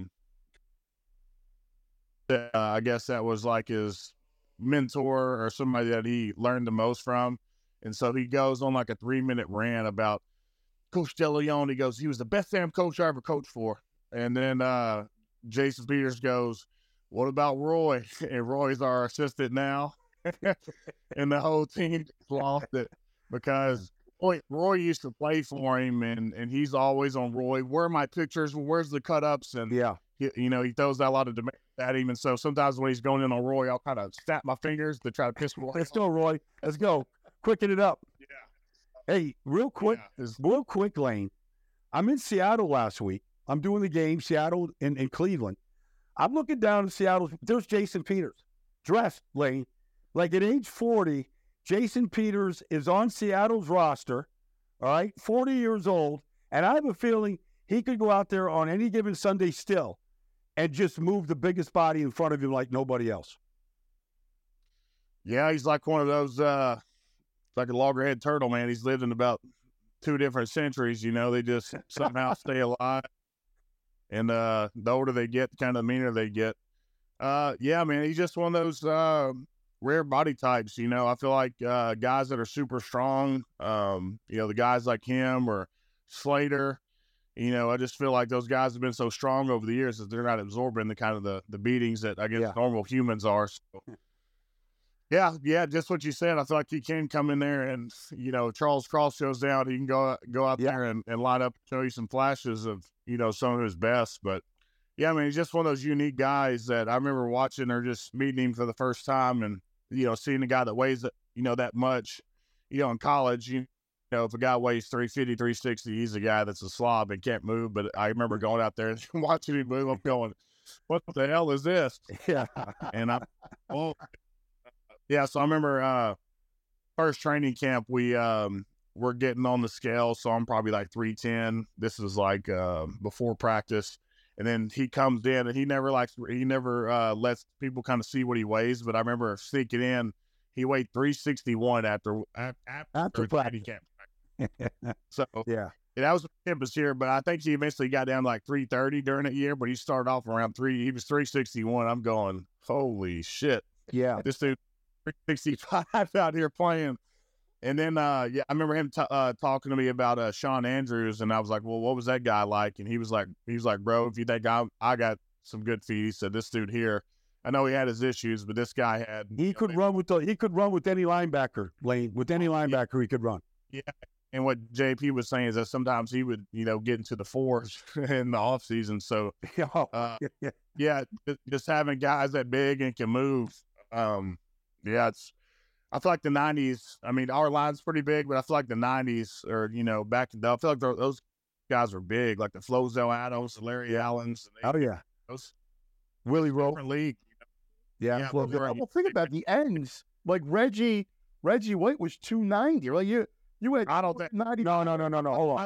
I guess that was like his mentor or somebody that he learned the most from, and so he goes on like a 3-minute rant about Coach DeLeon. He goes, "He was the best damn coach I ever coached for," and then Jason Peters goes, "What about Roy?" And Roy's our assistant now, and the whole team lost it because Roy used to play for him, and he's always on Roy. Where are my pictures? Where's the cut-ups? And, he throws out a lot of demands at him. And so sometimes when he's going in on Roy, I'll kind of snap my fingers to try to piss Roy off. Let's go, Roy. Let's go. Quicken it up. Yeah. Hey, real quick, Lane. I'm in Seattle last week. I'm doing the game, Seattle and Cleveland. I'm looking down at Seattle. There's Jason Peters, dressed, Lane. Like at age 40, Jason Peters is on Seattle's roster, all right, 40 years old, and I have a feeling he could go out there on any given Sunday still and just move the biggest body in front of him like nobody else. Yeah, he's like one of those, like a loggerhead turtle, man. He's lived in about 2 different centuries, they just somehow stay alive. And the older they get, kind of the meaner they get. Yeah, man, he's just one of those rare body types. I feel like guys that are super strong, the guys like him or Slater, I just feel like those guys have been so strong over the years that they're not absorbing the kind of the beatings that I guess normal humans are. So, yeah, just what you said. I feel like he can come in there and, Charles Cross shows down. He can go out there and line up, show you some flashes of, some of his best. But, yeah, I mean, he's just one of those unique guys that I remember watching or just meeting him for the first time and, seeing a guy that weighs, that much, in college, if a guy weighs 350, 360, he's a guy that's a slob and can't move. But I remember going out there and watching him move. I'm going, what the hell is this? Yeah. And yeah, so I remember first training camp, we're getting on the scale. So I'm probably like 310. This is like before practice. And then he comes in and he never lets people kind of see what he weighs. But I remember sneaking in, he weighed 361 after training camp. So yeah, that was campus here. But I think he eventually got down to like 330 during that year. But he started off around he was 361. I'm going, holy shit. Yeah, this dude 365 out here playing. And then, I remember him talking to me about Sean Andrews, and I was like, well, what was that guy like? And he was like, bro, if you think I got some good feet, he said, this dude here, I know he had his issues, but this guy had. He could run with any linebacker, Lane. With any linebacker, he could run. Yeah. And what JP was saying is that sometimes he would, get into the 4s in the off season. So, just having guys that big and can move. I feel like the 90s, I mean, our line's pretty big, but I feel like the 90s or, back in the, I feel like those guys were big, like the Flozell Adams, the Larry Allens. Those Willie Rowe. Different league. Yeah. Well, think about the ends. Like Reggie White was 290. Like you had I don't think 90. No. Hold on.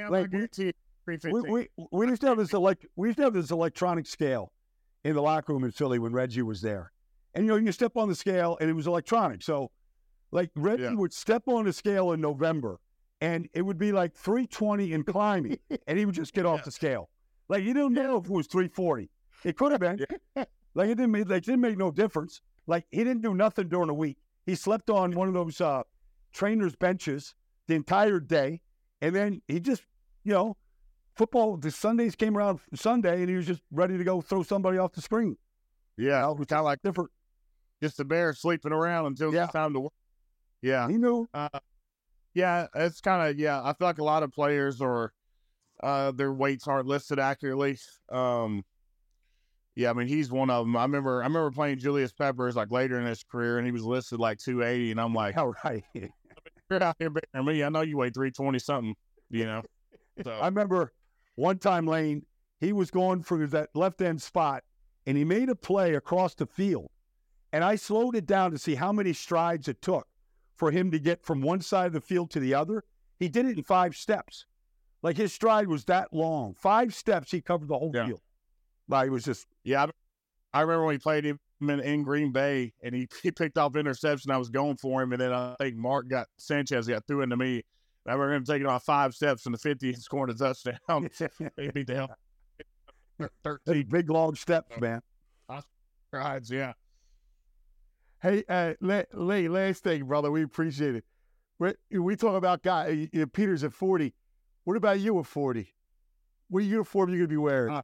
We used to have this electronic scale in the locker room in Philly when Reggie was there. And, you step on the scale, and it was electronic. So, like, Reggie would step on the scale in November, and it would be like 320 and climbing, and he would just get off the scale. Like, you didn't know if it was 340. It could have been. Like, it didn't make no difference. Like, he didn't do nothing during the week. He slept on one of those trainers' benches the entire day, and then he just, football, the Sundays came around Sunday, and he was just ready to go throw somebody off the screen. Yeah, it was kind of like different. Just a bear sleeping around until it's time to work. Yeah. He knew. It's kind of, I feel like a lot of players are, their weights aren't listed accurately. Yeah, I mean, he's one of them. I remember playing Julius Peppers like later in his career, and he was listed like 280, and I'm like, All right. you're out here bigger than me. I know you weigh 320 something, you know. So I remember one time, Lane, he was going for that left end spot, and he made a play across the field. And I slowed it down to see how many strides it took for him to get from one side of the field to the other. He did it in 5 steps. Like his stride was that long. 5 steps, he covered the whole field. Like it was just. yeah, I remember when he played him in Green Bay, and he picked off interception. I was going for him, and then I think Sanchez got threw into me. I remember him taking off 5 steps from the 50 and scoring a touchdown. They beat the hell. 13 big long steps, man. strides, yeah. Hey, last thing, brother. We appreciate it. We talk about Peter's at 40. What about you at 40? What uniform are you going to be wearing?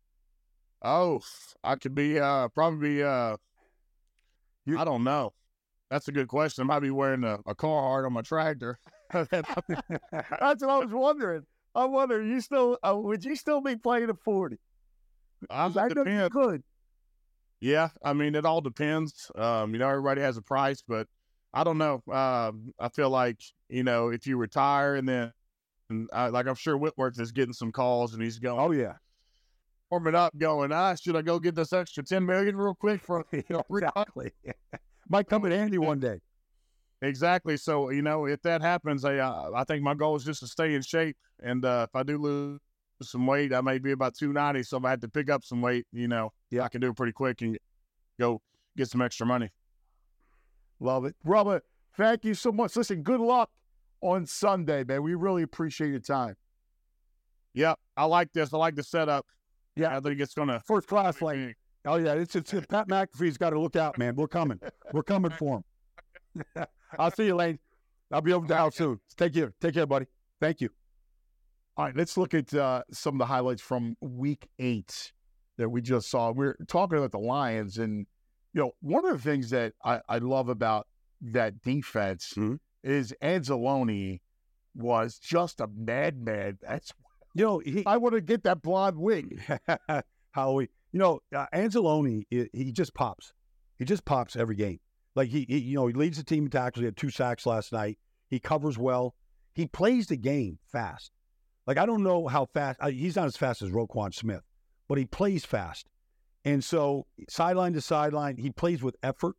I could be probably I don't know. That's a good question. I might be wearing a Carhartt on my tractor. That's what I was wondering. I'm wondering, would you still be playing at 40? I know you could. Yeah, I mean, it all depends. Everybody has a price, but I don't know. I feel like, if you retire and then, I'm sure Whitworth is getting some calls and he's going, oh, yeah. Warming up going, should I go get this extra $10 million real quick for exactly. Might come in handy one day. Exactly. So, if that happens, I think my goal is just to stay in shape. And if I do lose some weight, I may be about 290. So if I had to pick up some weight, I can do it pretty quick and go get some extra money. Love it. Brother, thank you so much. Listen, good luck on Sunday, man. We really appreciate your time. Yeah, I like this. I like the setup. Yeah, I think it's going to first class. Like, oh yeah, it's Pat McAfee's got to look out, man. We're coming for him. I'll see you, Lane. I'll be over the house soon. Take care, buddy. Thank you. All right, let's look at some of the highlights from Week 8 that we just saw. We're talking about the Lions, and one of the things that I love about that defense is Anzalone was just a madman. That's I want to get that blonde wig. Howie, Anzalone, he just pops. He just pops every game. Like he leads the team in tackles. He had 2 sacks last night. He covers well. He plays the game fast. Like I don't know how fast. He's not as fast as Roquan Smith, but he plays fast. And so sideline to sideline, he plays with effort.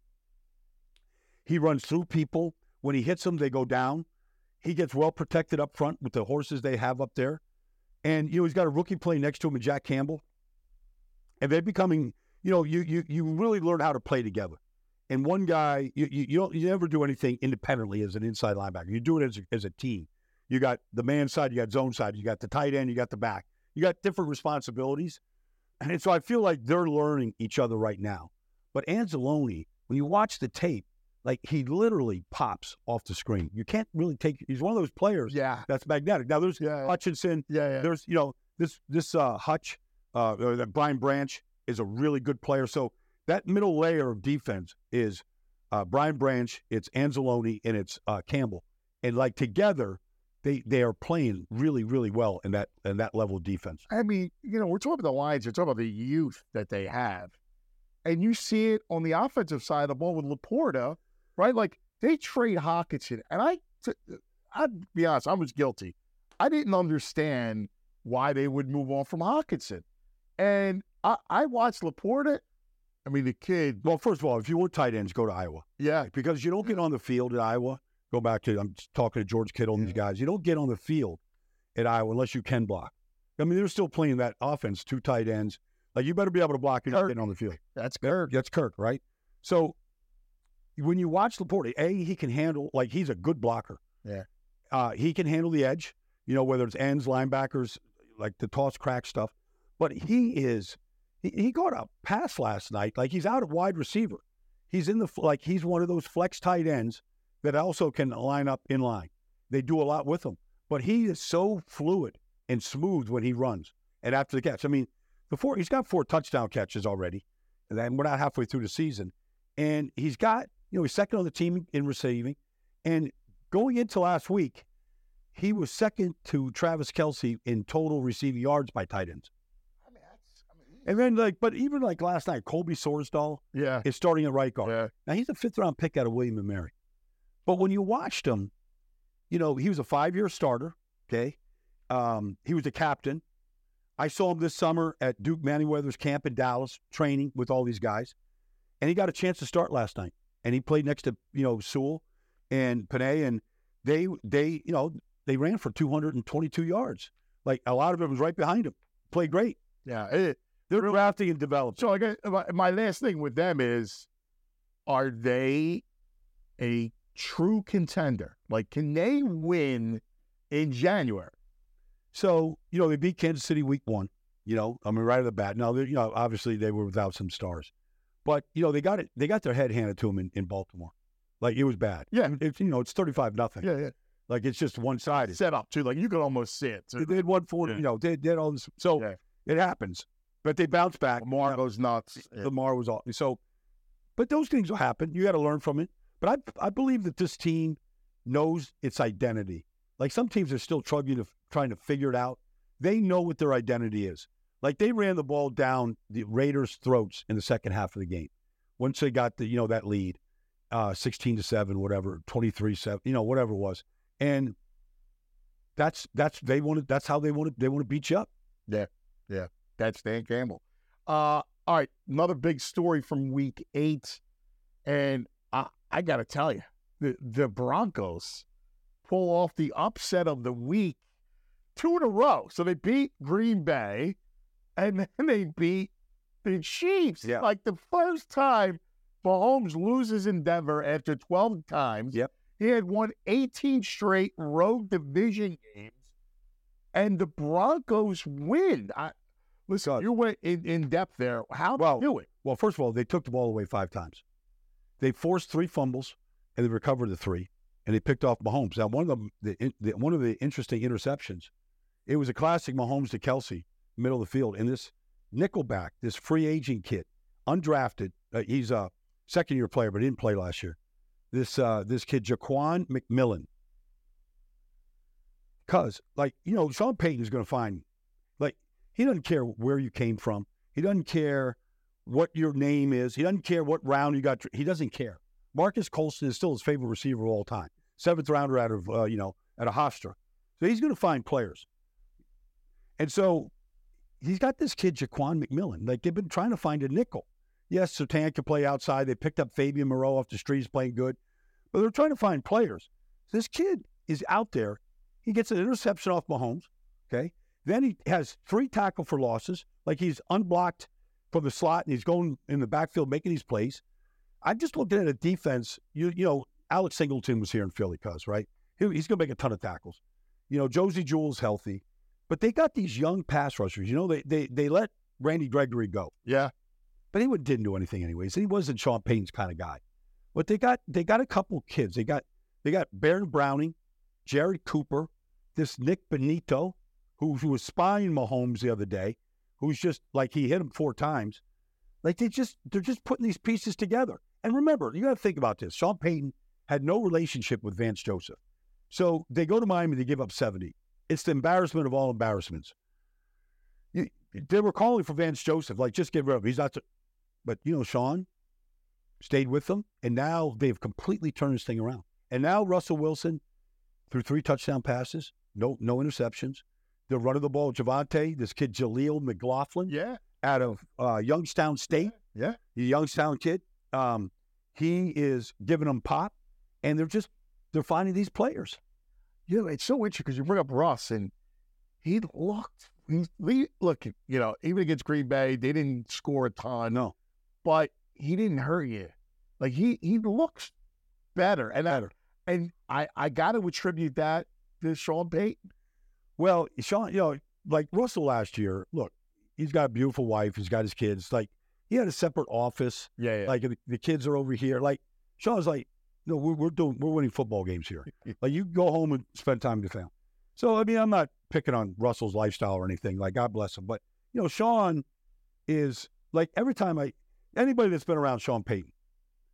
He runs through people. When he hits them, they go down. He gets well protected up front with the horses they have up there. And, he's got a rookie playing next to him, Jack Campbell. And they're becoming, you really learn how to play together. And one guy, you never do anything independently as an inside linebacker. You do it as a team. You got the man side, you got zone side, you got the tight end, you got the back. You got different responsibilities. And so I feel like they're learning each other right now. But Anzalone, when you watch the tape, like he literally pops off the screen. You can't really he's one of those players that's magnetic. Now there's Hutchinson. There's, this Hutch, Brian Branch is a really good player. So that middle layer of defense is Brian Branch, it's Anzalone, and it's Campbell. And like together, they are playing really, really well in that level of defense. I mean, we're talking about the Lions. We're talking about the youth that they have. And you see it on the offensive side of the ball with Laporta, right? Like, they trade Hockenson. And I'd be honest, I was guilty. I didn't understand why they would move on from Hockenson. And I watched Laporta. I mean, the kid. Well, first of all, if you want tight ends, go to Iowa. Yeah. Because you don't get on the field at Iowa. Go back to, I'm talking to George Kittle and these guys. You don't get on the field at Iowa unless you can block. I mean, they're still playing that offense, 2 tight ends. Like, you better be able to block and get on the field. That's Kirk. That's Kirk, right? So when you watch Laporta, he can handle, like, he's a good blocker. Yeah. He can handle the edge, whether it's ends, linebackers, like the toss crack stuff. But he got a pass last night. Like, he's out at wide receiver. He's he's one of those flex tight ends that also can line up in line. They do a lot with him. But he is so fluid and smooth when he runs and after the catch. I mean, he's got 4 touchdown catches already, and then we're not halfway through the season. And he's got, he's second on the team in receiving. And going into last week, he was second to Travis Kelce in total receiving yards by tight ends. And then, but even last night, Colby Sorsdahl is starting at right guard. Yeah. Now, he's a 5th-round pick out of William & Mary. But when you watched him, he was a 5-year starter, okay? He was a captain. I saw him this summer at Duke Manyweather's camp in Dallas, training with all these guys. And he got a chance to start last night. And he played next to, Sewell and Panay, and they ran for 222 yards. Like, a lot of it was right behind him. Played great. Yeah. They're drafting and developing. So I guess my last thing with them is, are they a true contender? Like, can they win in January? So, they beat Kansas City week 1, right at the bat. Now, obviously they were without some stars. But, they got their head handed to them in Baltimore. Like, it was bad. Yeah. It's 35-0. Yeah. Like, it's just one-sided. Set up, too. Like, you could almost see it. They had 140, they had all this. So, it happens. But they bounced back. Lamar goes nuts. Lamar was off. So, but those things will happen. You got to learn from it. But I believe that this team knows its identity. Like, some teams are still trying to figure it out. They know what their identity is. Like, they ran the ball down the Raiders' throats in the second half of the game. Once they got that lead, 16-7, whatever, 23-7, whatever it was. And that's how they want to beat you up. Yeah. That's Dan Campbell. All right, another big story from Week 8, and I got to tell you, the Broncos pull off the upset of the week 2 in a row. So they beat Green Bay, and then they beat the Chiefs. Yeah. Like, the first time Mahomes loses in Denver after 12 times. Yep. He had won 18 straight road division games, and the Broncos win. Listen, you went in depth there. How did they do it? Well, first of all, they took the ball away 5 times. They forced 3 fumbles, and they recovered the 3, and they picked off Mahomes. Now, one of the interesting interceptions, it was a classic Mahomes to Kelce, middle of the field, and this nickelback, this free agent kid, undrafted. He's a second-year player, but he didn't play last year. This kid, Jaquan McMillan. Because, Sean Payton is going to find, he doesn't care where you came from. He doesn't care what your name is. He doesn't care what round you got. He doesn't care. Marcus Colston is still his favorite receiver of all time. 7th rounder out of, at a Hofstra. So he's going to find players. And so he's got this kid, Jaquan McMillan. Like, they've been trying to find a nickel. Yes, Surtain can play outside. They picked up Fabian Moreau off the street. He's playing good. But they're trying to find players. This kid is out there. He gets an interception off Mahomes, okay? Then he has 3 tackle for losses. Like, he's unblocked from the slot, and he's going in the backfield making these plays. I'm just looking at a defense. Alex Singleton was here in Philly, right? He's going to make a ton of tackles. Josie Jewell's healthy. But they got these young pass rushers. They let Randy Gregory go. Yeah. But he didn't do anything anyways. He wasn't Sean Payton's kind of guy. But they got a couple kids. They got Baron Browning, Jared Cooper, this Nick Benito, who was spying Mahomes the other day, who's just like, he hit him 4 times. Like, they're just putting these pieces together. And remember, you got to think about this. Sean Payton had no relationship with Vance Joseph. So they go to Miami, they give up 70. It's the embarrassment of all embarrassments. They were calling for Vance Joseph, like, just get rid of him. He's not. But, Sean stayed with them, and now they've completely turned this thing around. And now Russell Wilson threw 3 touchdown passes, no interceptions. They're running the ball. Javonte, this kid Jaleel McLaughlin, out of Youngstown State, the Youngstown kid. He is giving them pop, and they're finding these players. It's so interesting because you bring up Russ, and he looked. Look, even against Green Bay, they didn't score a ton. No, but he didn't hurt you. Like, he looks better, and I got to attribute that to Sean Payton. Well, Sean, like Russell last year. Look, he's got a beautiful wife. He's got his kids. Like, he had a separate office. Yeah. Like, the kids are over here. Like, Sean's like, no, we're winning football games here. Like, you go home and spend time with your family. So, I mean, I'm not picking on Russell's lifestyle or anything. Like, God bless him. But, Sean is, like, every time anybody that's been around Sean Payton,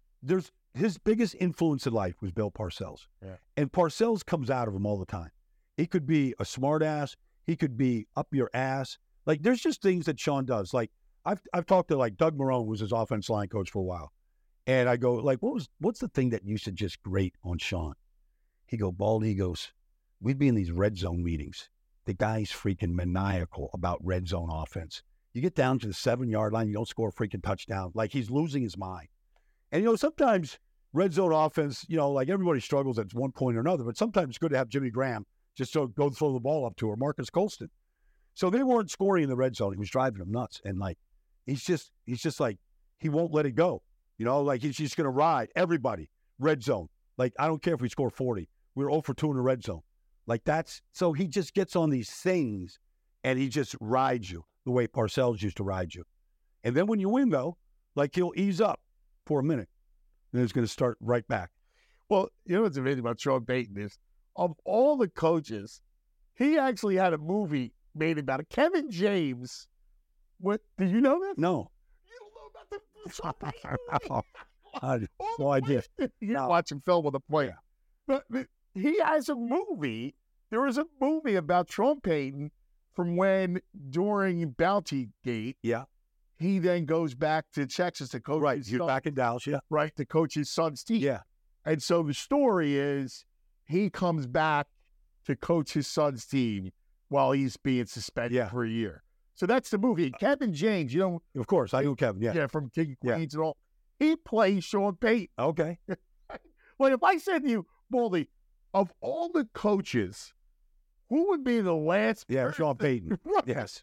his biggest influence in life was Bill Parcells. Yeah. And Parcells comes out of him all the time. He could be a smart ass. He could be up your ass. Like, there's just things that Sean does. Like, I've talked to, like, Doug Marrone was his offense line coach for a while. And I go, like, what's the thing that used to just grate on Sean? He goes, we'd be in these red zone meetings. The guy's freaking maniacal about red zone offense. You get down to the 7-yard line, you don't score a freaking touchdown. Like, he's losing his mind. And, sometimes red zone offense, like, everybody struggles at one point or another, but sometimes it's good to have Jimmy Graham just to go throw the ball up to, or Marcus Colston. So they weren't scoring in the red zone. He was driving them nuts. And, like, he's just like, he won't let it go. Like, he's just going to ride everybody. Red zone. Like, I don't care if we score 40. We're 0 for 2 in the red zone. Like, so he just gets on these things and he just rides you the way Parcells used to ride you. And then when you win, though, like, he'll ease up for a minute and it's going to start right back. Well, what's amazing about Sean Payton is, of all the coaches, he actually had a movie made about it. Kevin James. What? Did you know that? No. You don't know about the I had no idea. You're watching film with a player. But he has a movie. There was a movie about Sean Payton from when, during Bounty Gate, he then goes back to Texas to coach. Right, he's back in Dallas, right, to coach his son's team. Yeah. And so the story is he comes back to coach his son's team while he's being suspended for a year. So that's the movie. Kevin James, of course, I know Kevin, yeah, from King of Queens and all. He plays Sean Payton. Okay. Well, if I said to you, Baldy, of all the coaches, who would be the last? Yeah, Sean Payton. Right. Yes.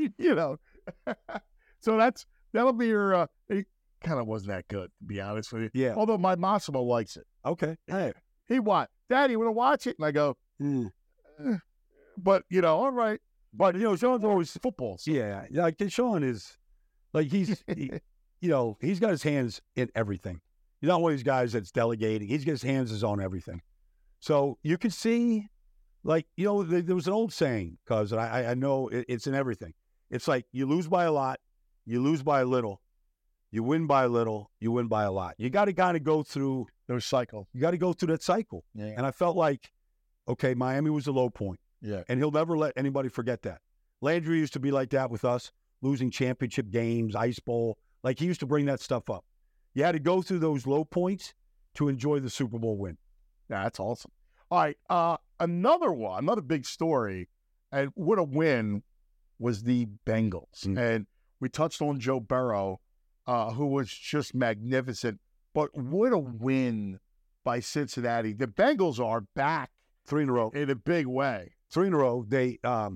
So that'll be your. It kind of wasn't that good, to be honest with you. Yeah. Although my Massimo likes it. Okay. Hey. He what? Daddy, you want to watch it? And I go, but all right. But Sean's always football. So. Yeah, like Sean is, like he's got his hands in everything. He's not one of these guys that's delegating. He's got his hands on everything. So you can see, like, there was an old saying, because I know it's in everything. It's like, you lose by a lot, you lose by a little, you win by a little, you win by a lot. You got to kind of go through those cycles. You got to go through that cycle. Yeah. And I felt like, okay, Miami was a low point. Yeah. And he'll never let anybody forget that. Landry used to be like that with us, losing championship games, Ice Bowl. Like, he used to bring that stuff up. You had to go through those low points to enjoy the Super Bowl win. Yeah, that's awesome. All right, another big story, and what a win, was the Bengals. Mm-hmm. And we touched on Joe Burrow, who was just magnificent. But what a win by Cincinnati. The Bengals are back 3 in a row in a big way. 3 in a row. They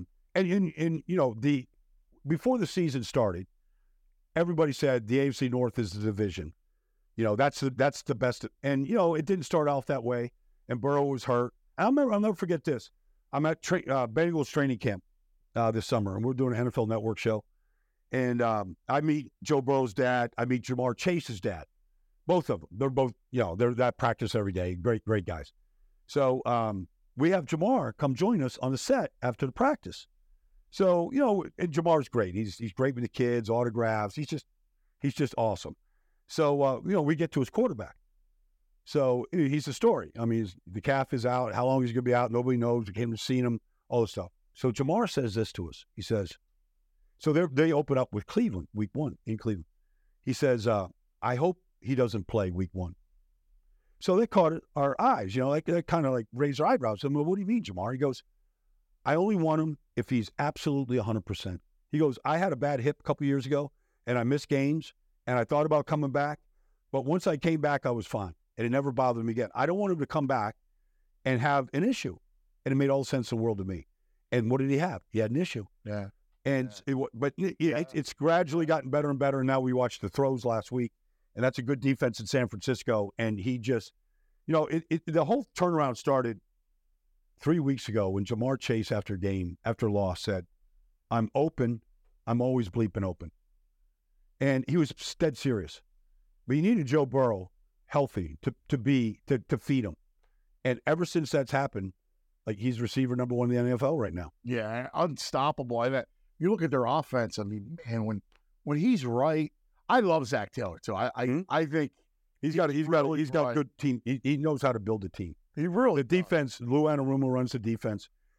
before the season started, everybody said the AFC North is the division. That's the best. And it didn't start off that way. And Burrow was hurt. I'll never forget this. I'm at Bengals training camp this summer, and we're doing an NFL Network show. And I meet Joe Burrow's dad. I meet Jamar Chase's dad. Both of them. They're both, they're at practice every day. Great, great guys. So we have Jamar come join us on the set after the practice. So, and Jamar's great. He's great with the kids, autographs. He's just awesome. So, we get to his quarterback. So he's the story. I mean, the calf is out. How long he's going to be out, nobody knows. We came to see him, all this stuff. So Jamar says this to us. He says, so they open up with Cleveland, week 1 in Cleveland. He says, I hope he doesn't play week 1. So they caught our eyes, they kind of like raised their eyebrows. I mean, what do you mean, Jamar? He goes, I only want him if he's absolutely 100%. He goes, I had a bad hip a couple years ago, and I missed games, and I thought about coming back. But once I came back, I was fine. And it never bothered me again. I don't want him to come back and have an issue. And it made all the sense in the world to me. And what did he have? He had an issue. Yeah. And it's gradually gotten better and better. And now we watched the throws last week, and that's a good defense in San Francisco. And he just, the whole turnaround started 3 weeks ago when Jamar Chase, after loss, said, I'm open. I'm always bleeping open. And he was dead serious. But you needed Joe Burrow healthy to feed him. And ever since that's happened, like, he's receiver number 1 in the NFL right now. Yeah, unstoppable. I mean, you look at their offense. I mean, man, when he's right, I love Zach Taylor too. I think he's got a good team. He knows how to build a team. He really the defense. Lou Anarumo runs the defense,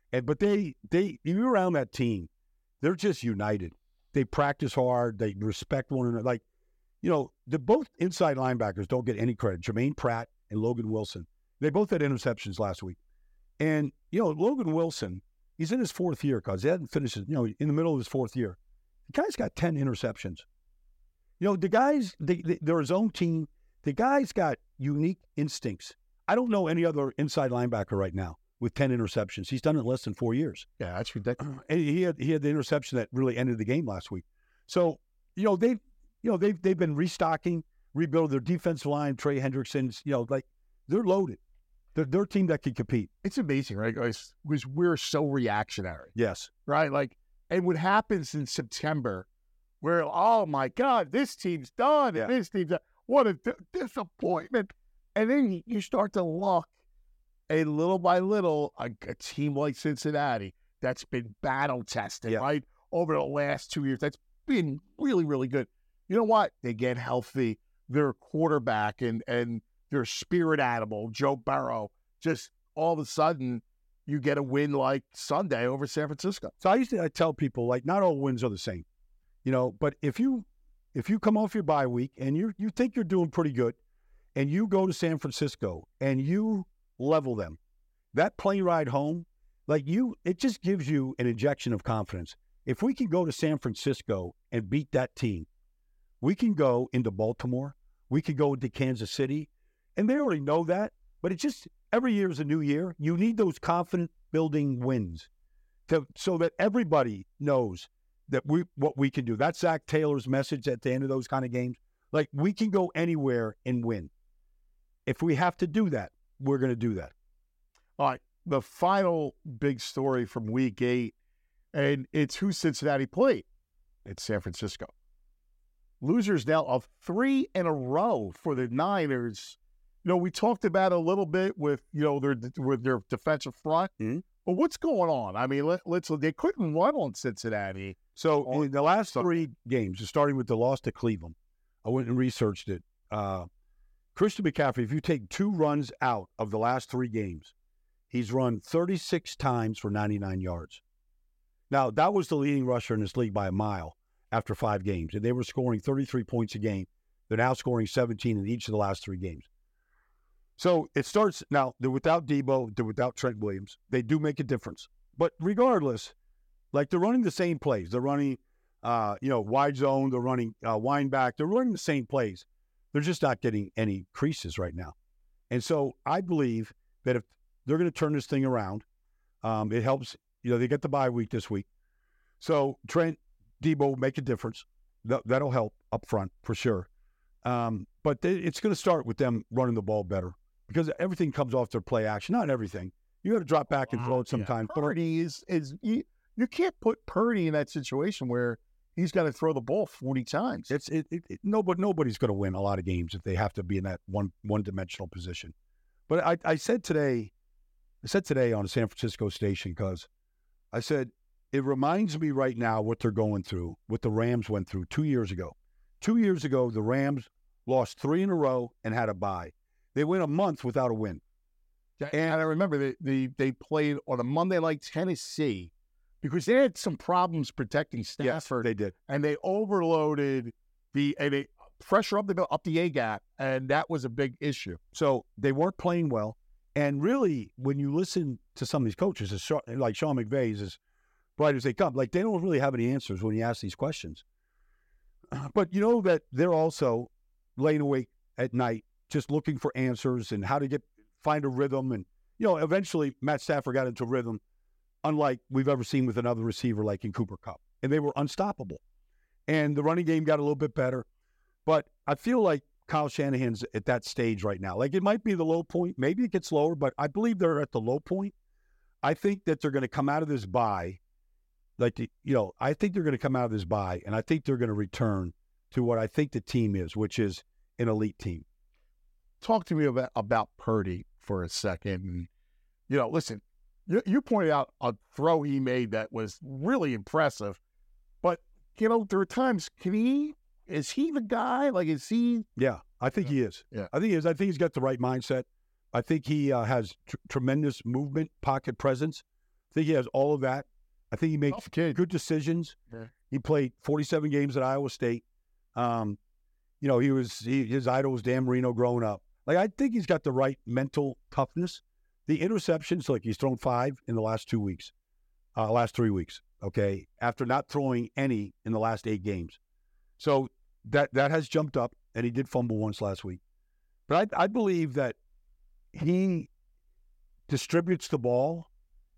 But you're around that team, they're just united. They practice hard. They respect one another. Like, the both inside linebackers don't get any credit. Jermaine Pratt and Logan Wilson. They both had interceptions last week. And, Logan Wilson, he's in his fourth year because he hadn't finished, in the middle of his fourth year. The guy's got 10 interceptions. The guys, they're his own team. The guy's got unique instincts. I don't know any other inside linebacker right now with 10 interceptions. He's done it in less than 4 years. Yeah, that's ridiculous. And he had the interception that really ended the game last week. So, they've been restocking, rebuilding their defensive line. Trey Hendrickson's, they're loaded. They're a team that can compete. It's amazing, right, guys? Because we're so reactionary. Yes. Right? And what happens in September where, oh, my God, this team's done. And this team's done. What a disappointment. And then you start to look, and little by little, a team like Cincinnati that's been battle-tested, right, over the last 2 years, that's been really, really good. You know what? They get healthy. Their quarterback and their spirit animal, Joe Burrow, just all of a sudden, you get a win like Sunday over San Francisco. So I tell people, not all wins are the same, but if you come off your bye week and you think you're doing pretty good and you go to San Francisco and you level them, that plane ride home, it just gives you an injection of confidence. If we can go to San Francisco and beat that team, we can go into Baltimore, we could go into Kansas City, and they already know that, but it's just every year is a new year. You need those confident-building wins so that everybody knows that what we can do. That's Zach Taylor's message at the end of those kind of games. We can go anywhere and win. If we have to do that, we're going to do that. All right, the final big story from Week 8, and it's who Cincinnati played. It's San Francisco. Losers now of 3 in a row for the Niners. We talked about it a little bit with their defensive front. Mm-hmm. But what's going on? I mean, they couldn't run on Cincinnati. So in the last 3 games, starting with the loss to Cleveland, I went and researched it. Christian McCaffrey, if you take 2 runs out of the last 3 games, he's run 36 times for 99 yards. Now, that was the leading rusher in this league by a mile after 5 games, and they were scoring 33 points a game. They're now scoring 17 in each of the last 3 games. So it starts now. They're without Debo. They're without Trent Williams. They do make a difference. But regardless, they're running the same plays. They're running, wide zone. They're running wind back. They're running the same plays. They're just not getting any creases right now. And so I believe that if they're going to turn this thing around, it helps. They get the bye week this week. So Trent, Debo make a difference. That'll help up front for sure. But it's going to start with them running the ball better. Because everything comes off their play action. Not everything. You got to drop back and throw it sometimes. Purdy is you can't put Purdy in that situation where he's got to throw the ball 40 times. Nobody's going to win a lot of games if they have to be in that one-dimensional position. But I said today on a San Francisco station because I said it reminds me right now what they're going through, what the Rams went through 2 years ago. 2 years ago, the Rams lost 3 in a row and had a bye. They went a month without a win. And I remember they played on a Monday like Tennessee because they had some problems protecting Stafford. Yes, they did. And they overloaded they pressure up the A gap, and that was a big issue. So they weren't playing well. And really, when you listen to some of these coaches, like Sean McVay is as bright as they come. They don't really have any answers when you ask these questions. But you know that they're also laying awake at night just looking for answers and how to find a rhythm. And, eventually Matt Stafford got into rhythm, unlike we've ever seen with another receiver like in Cooper Kupp. And they were unstoppable. And the running game got a little bit better. But I feel like Kyle Shanahan's at that stage right now. It might be the low point. Maybe it gets lower, but I believe they're at the low point. I think that they're going to come out of this bye. I think they're going to come out of this bye, and I think they're going to return to what I think the team is, which is an elite team. Talk to me about Purdy for a second. Listen, you pointed out a throw he made that was really impressive, but there are times is he the guy? Is he? Yeah, I think he is. Yeah, I think he is. I think he's got the right mindset. I think he has tremendous movement, pocket presence, think he has all of that. I think he makes good decisions. Yeah. He played 47 games at Iowa State. His idol was Dan Marino growing up. Like, I think he's got the right mental toughness. The interceptions, like he's thrown 5 in the last 3 weeks, okay, after not throwing any in the last 8 games. So that has jumped up, and he did fumble once last week. But I believe that he distributes the ball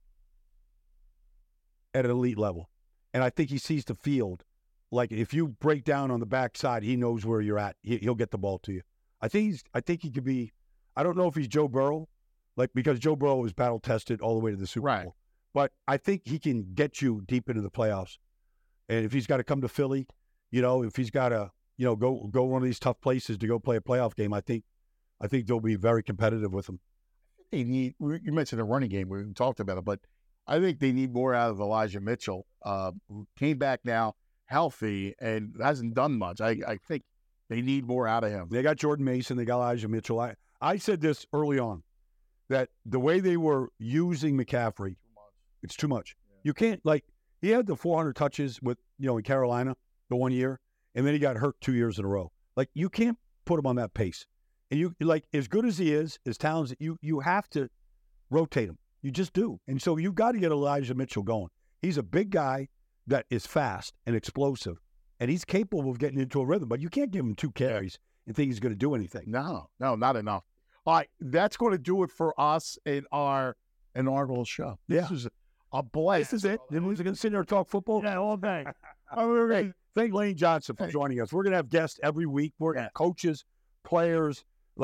at an elite level. And I think he sees the field. Like, if you break down on the backside, he knows where you're at. He'll get the ball to you. I think he could be, I don't know if he's Joe Burrow, because Joe Burrow was battle tested all the way to the Super Bowl. But I think he can get you deep into the playoffs. And if he's got to come to Philly, if he's got to, go one of these tough places to go play a playoff game, I think they'll be very competitive with him. They need, you mentioned the running game, we talked about it, but I think they need more out of Elijah Mitchell, who came back now healthy and hasn't done much. I think they need more out of him. They got Jordan Mason, they got Elijah Mitchell. I said this early on, that the way they were using McCaffrey, it's too much. Yeah. You can't, he had the 400 touches with, in Carolina the 1 year, and then he got hurt 2 years in a row. You can't put him on that pace. And you, as good as he is, as talented, you have to rotate him. You just do. And so you've got to get Elijah Mitchell going. He's a big guy that is fast and explosive, and he's capable of getting into a rhythm, but you can't give him 2 carries and think he's going to do anything. No, not enough. All right, that's going to do it for us in our inaugural show. This is a blast. This is it. Then we're going to sit there and talk football? Yeah, all day. Hey, thank Lane Johnson for joining us. We're going to have guests every week. We're going to have coaches, players,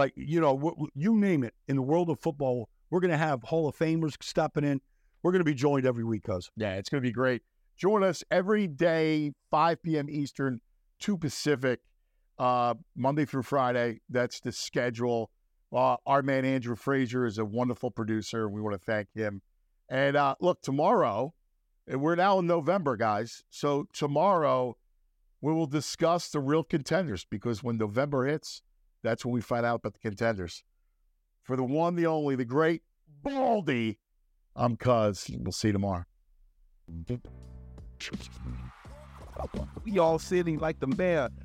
you name it. In the world of football, we're going to have Hall of Famers stepping in. We're going to be joined every week, cuz. Yeah, it's going to be great. Join us every day, 5 p.m. Eastern, 2 Pacific, Monday through Friday. That's the schedule. Our man Andrew Frazier is a wonderful producer. We want to thank him. And look, tomorrow, and we're now in November, guys. So tomorrow, we will discuss the real contenders, because when November hits, that's when we find out about the contenders. For the one, the only, the great Baldy, I'm Cuz. We'll see you tomorrow. We all sitting like the mayor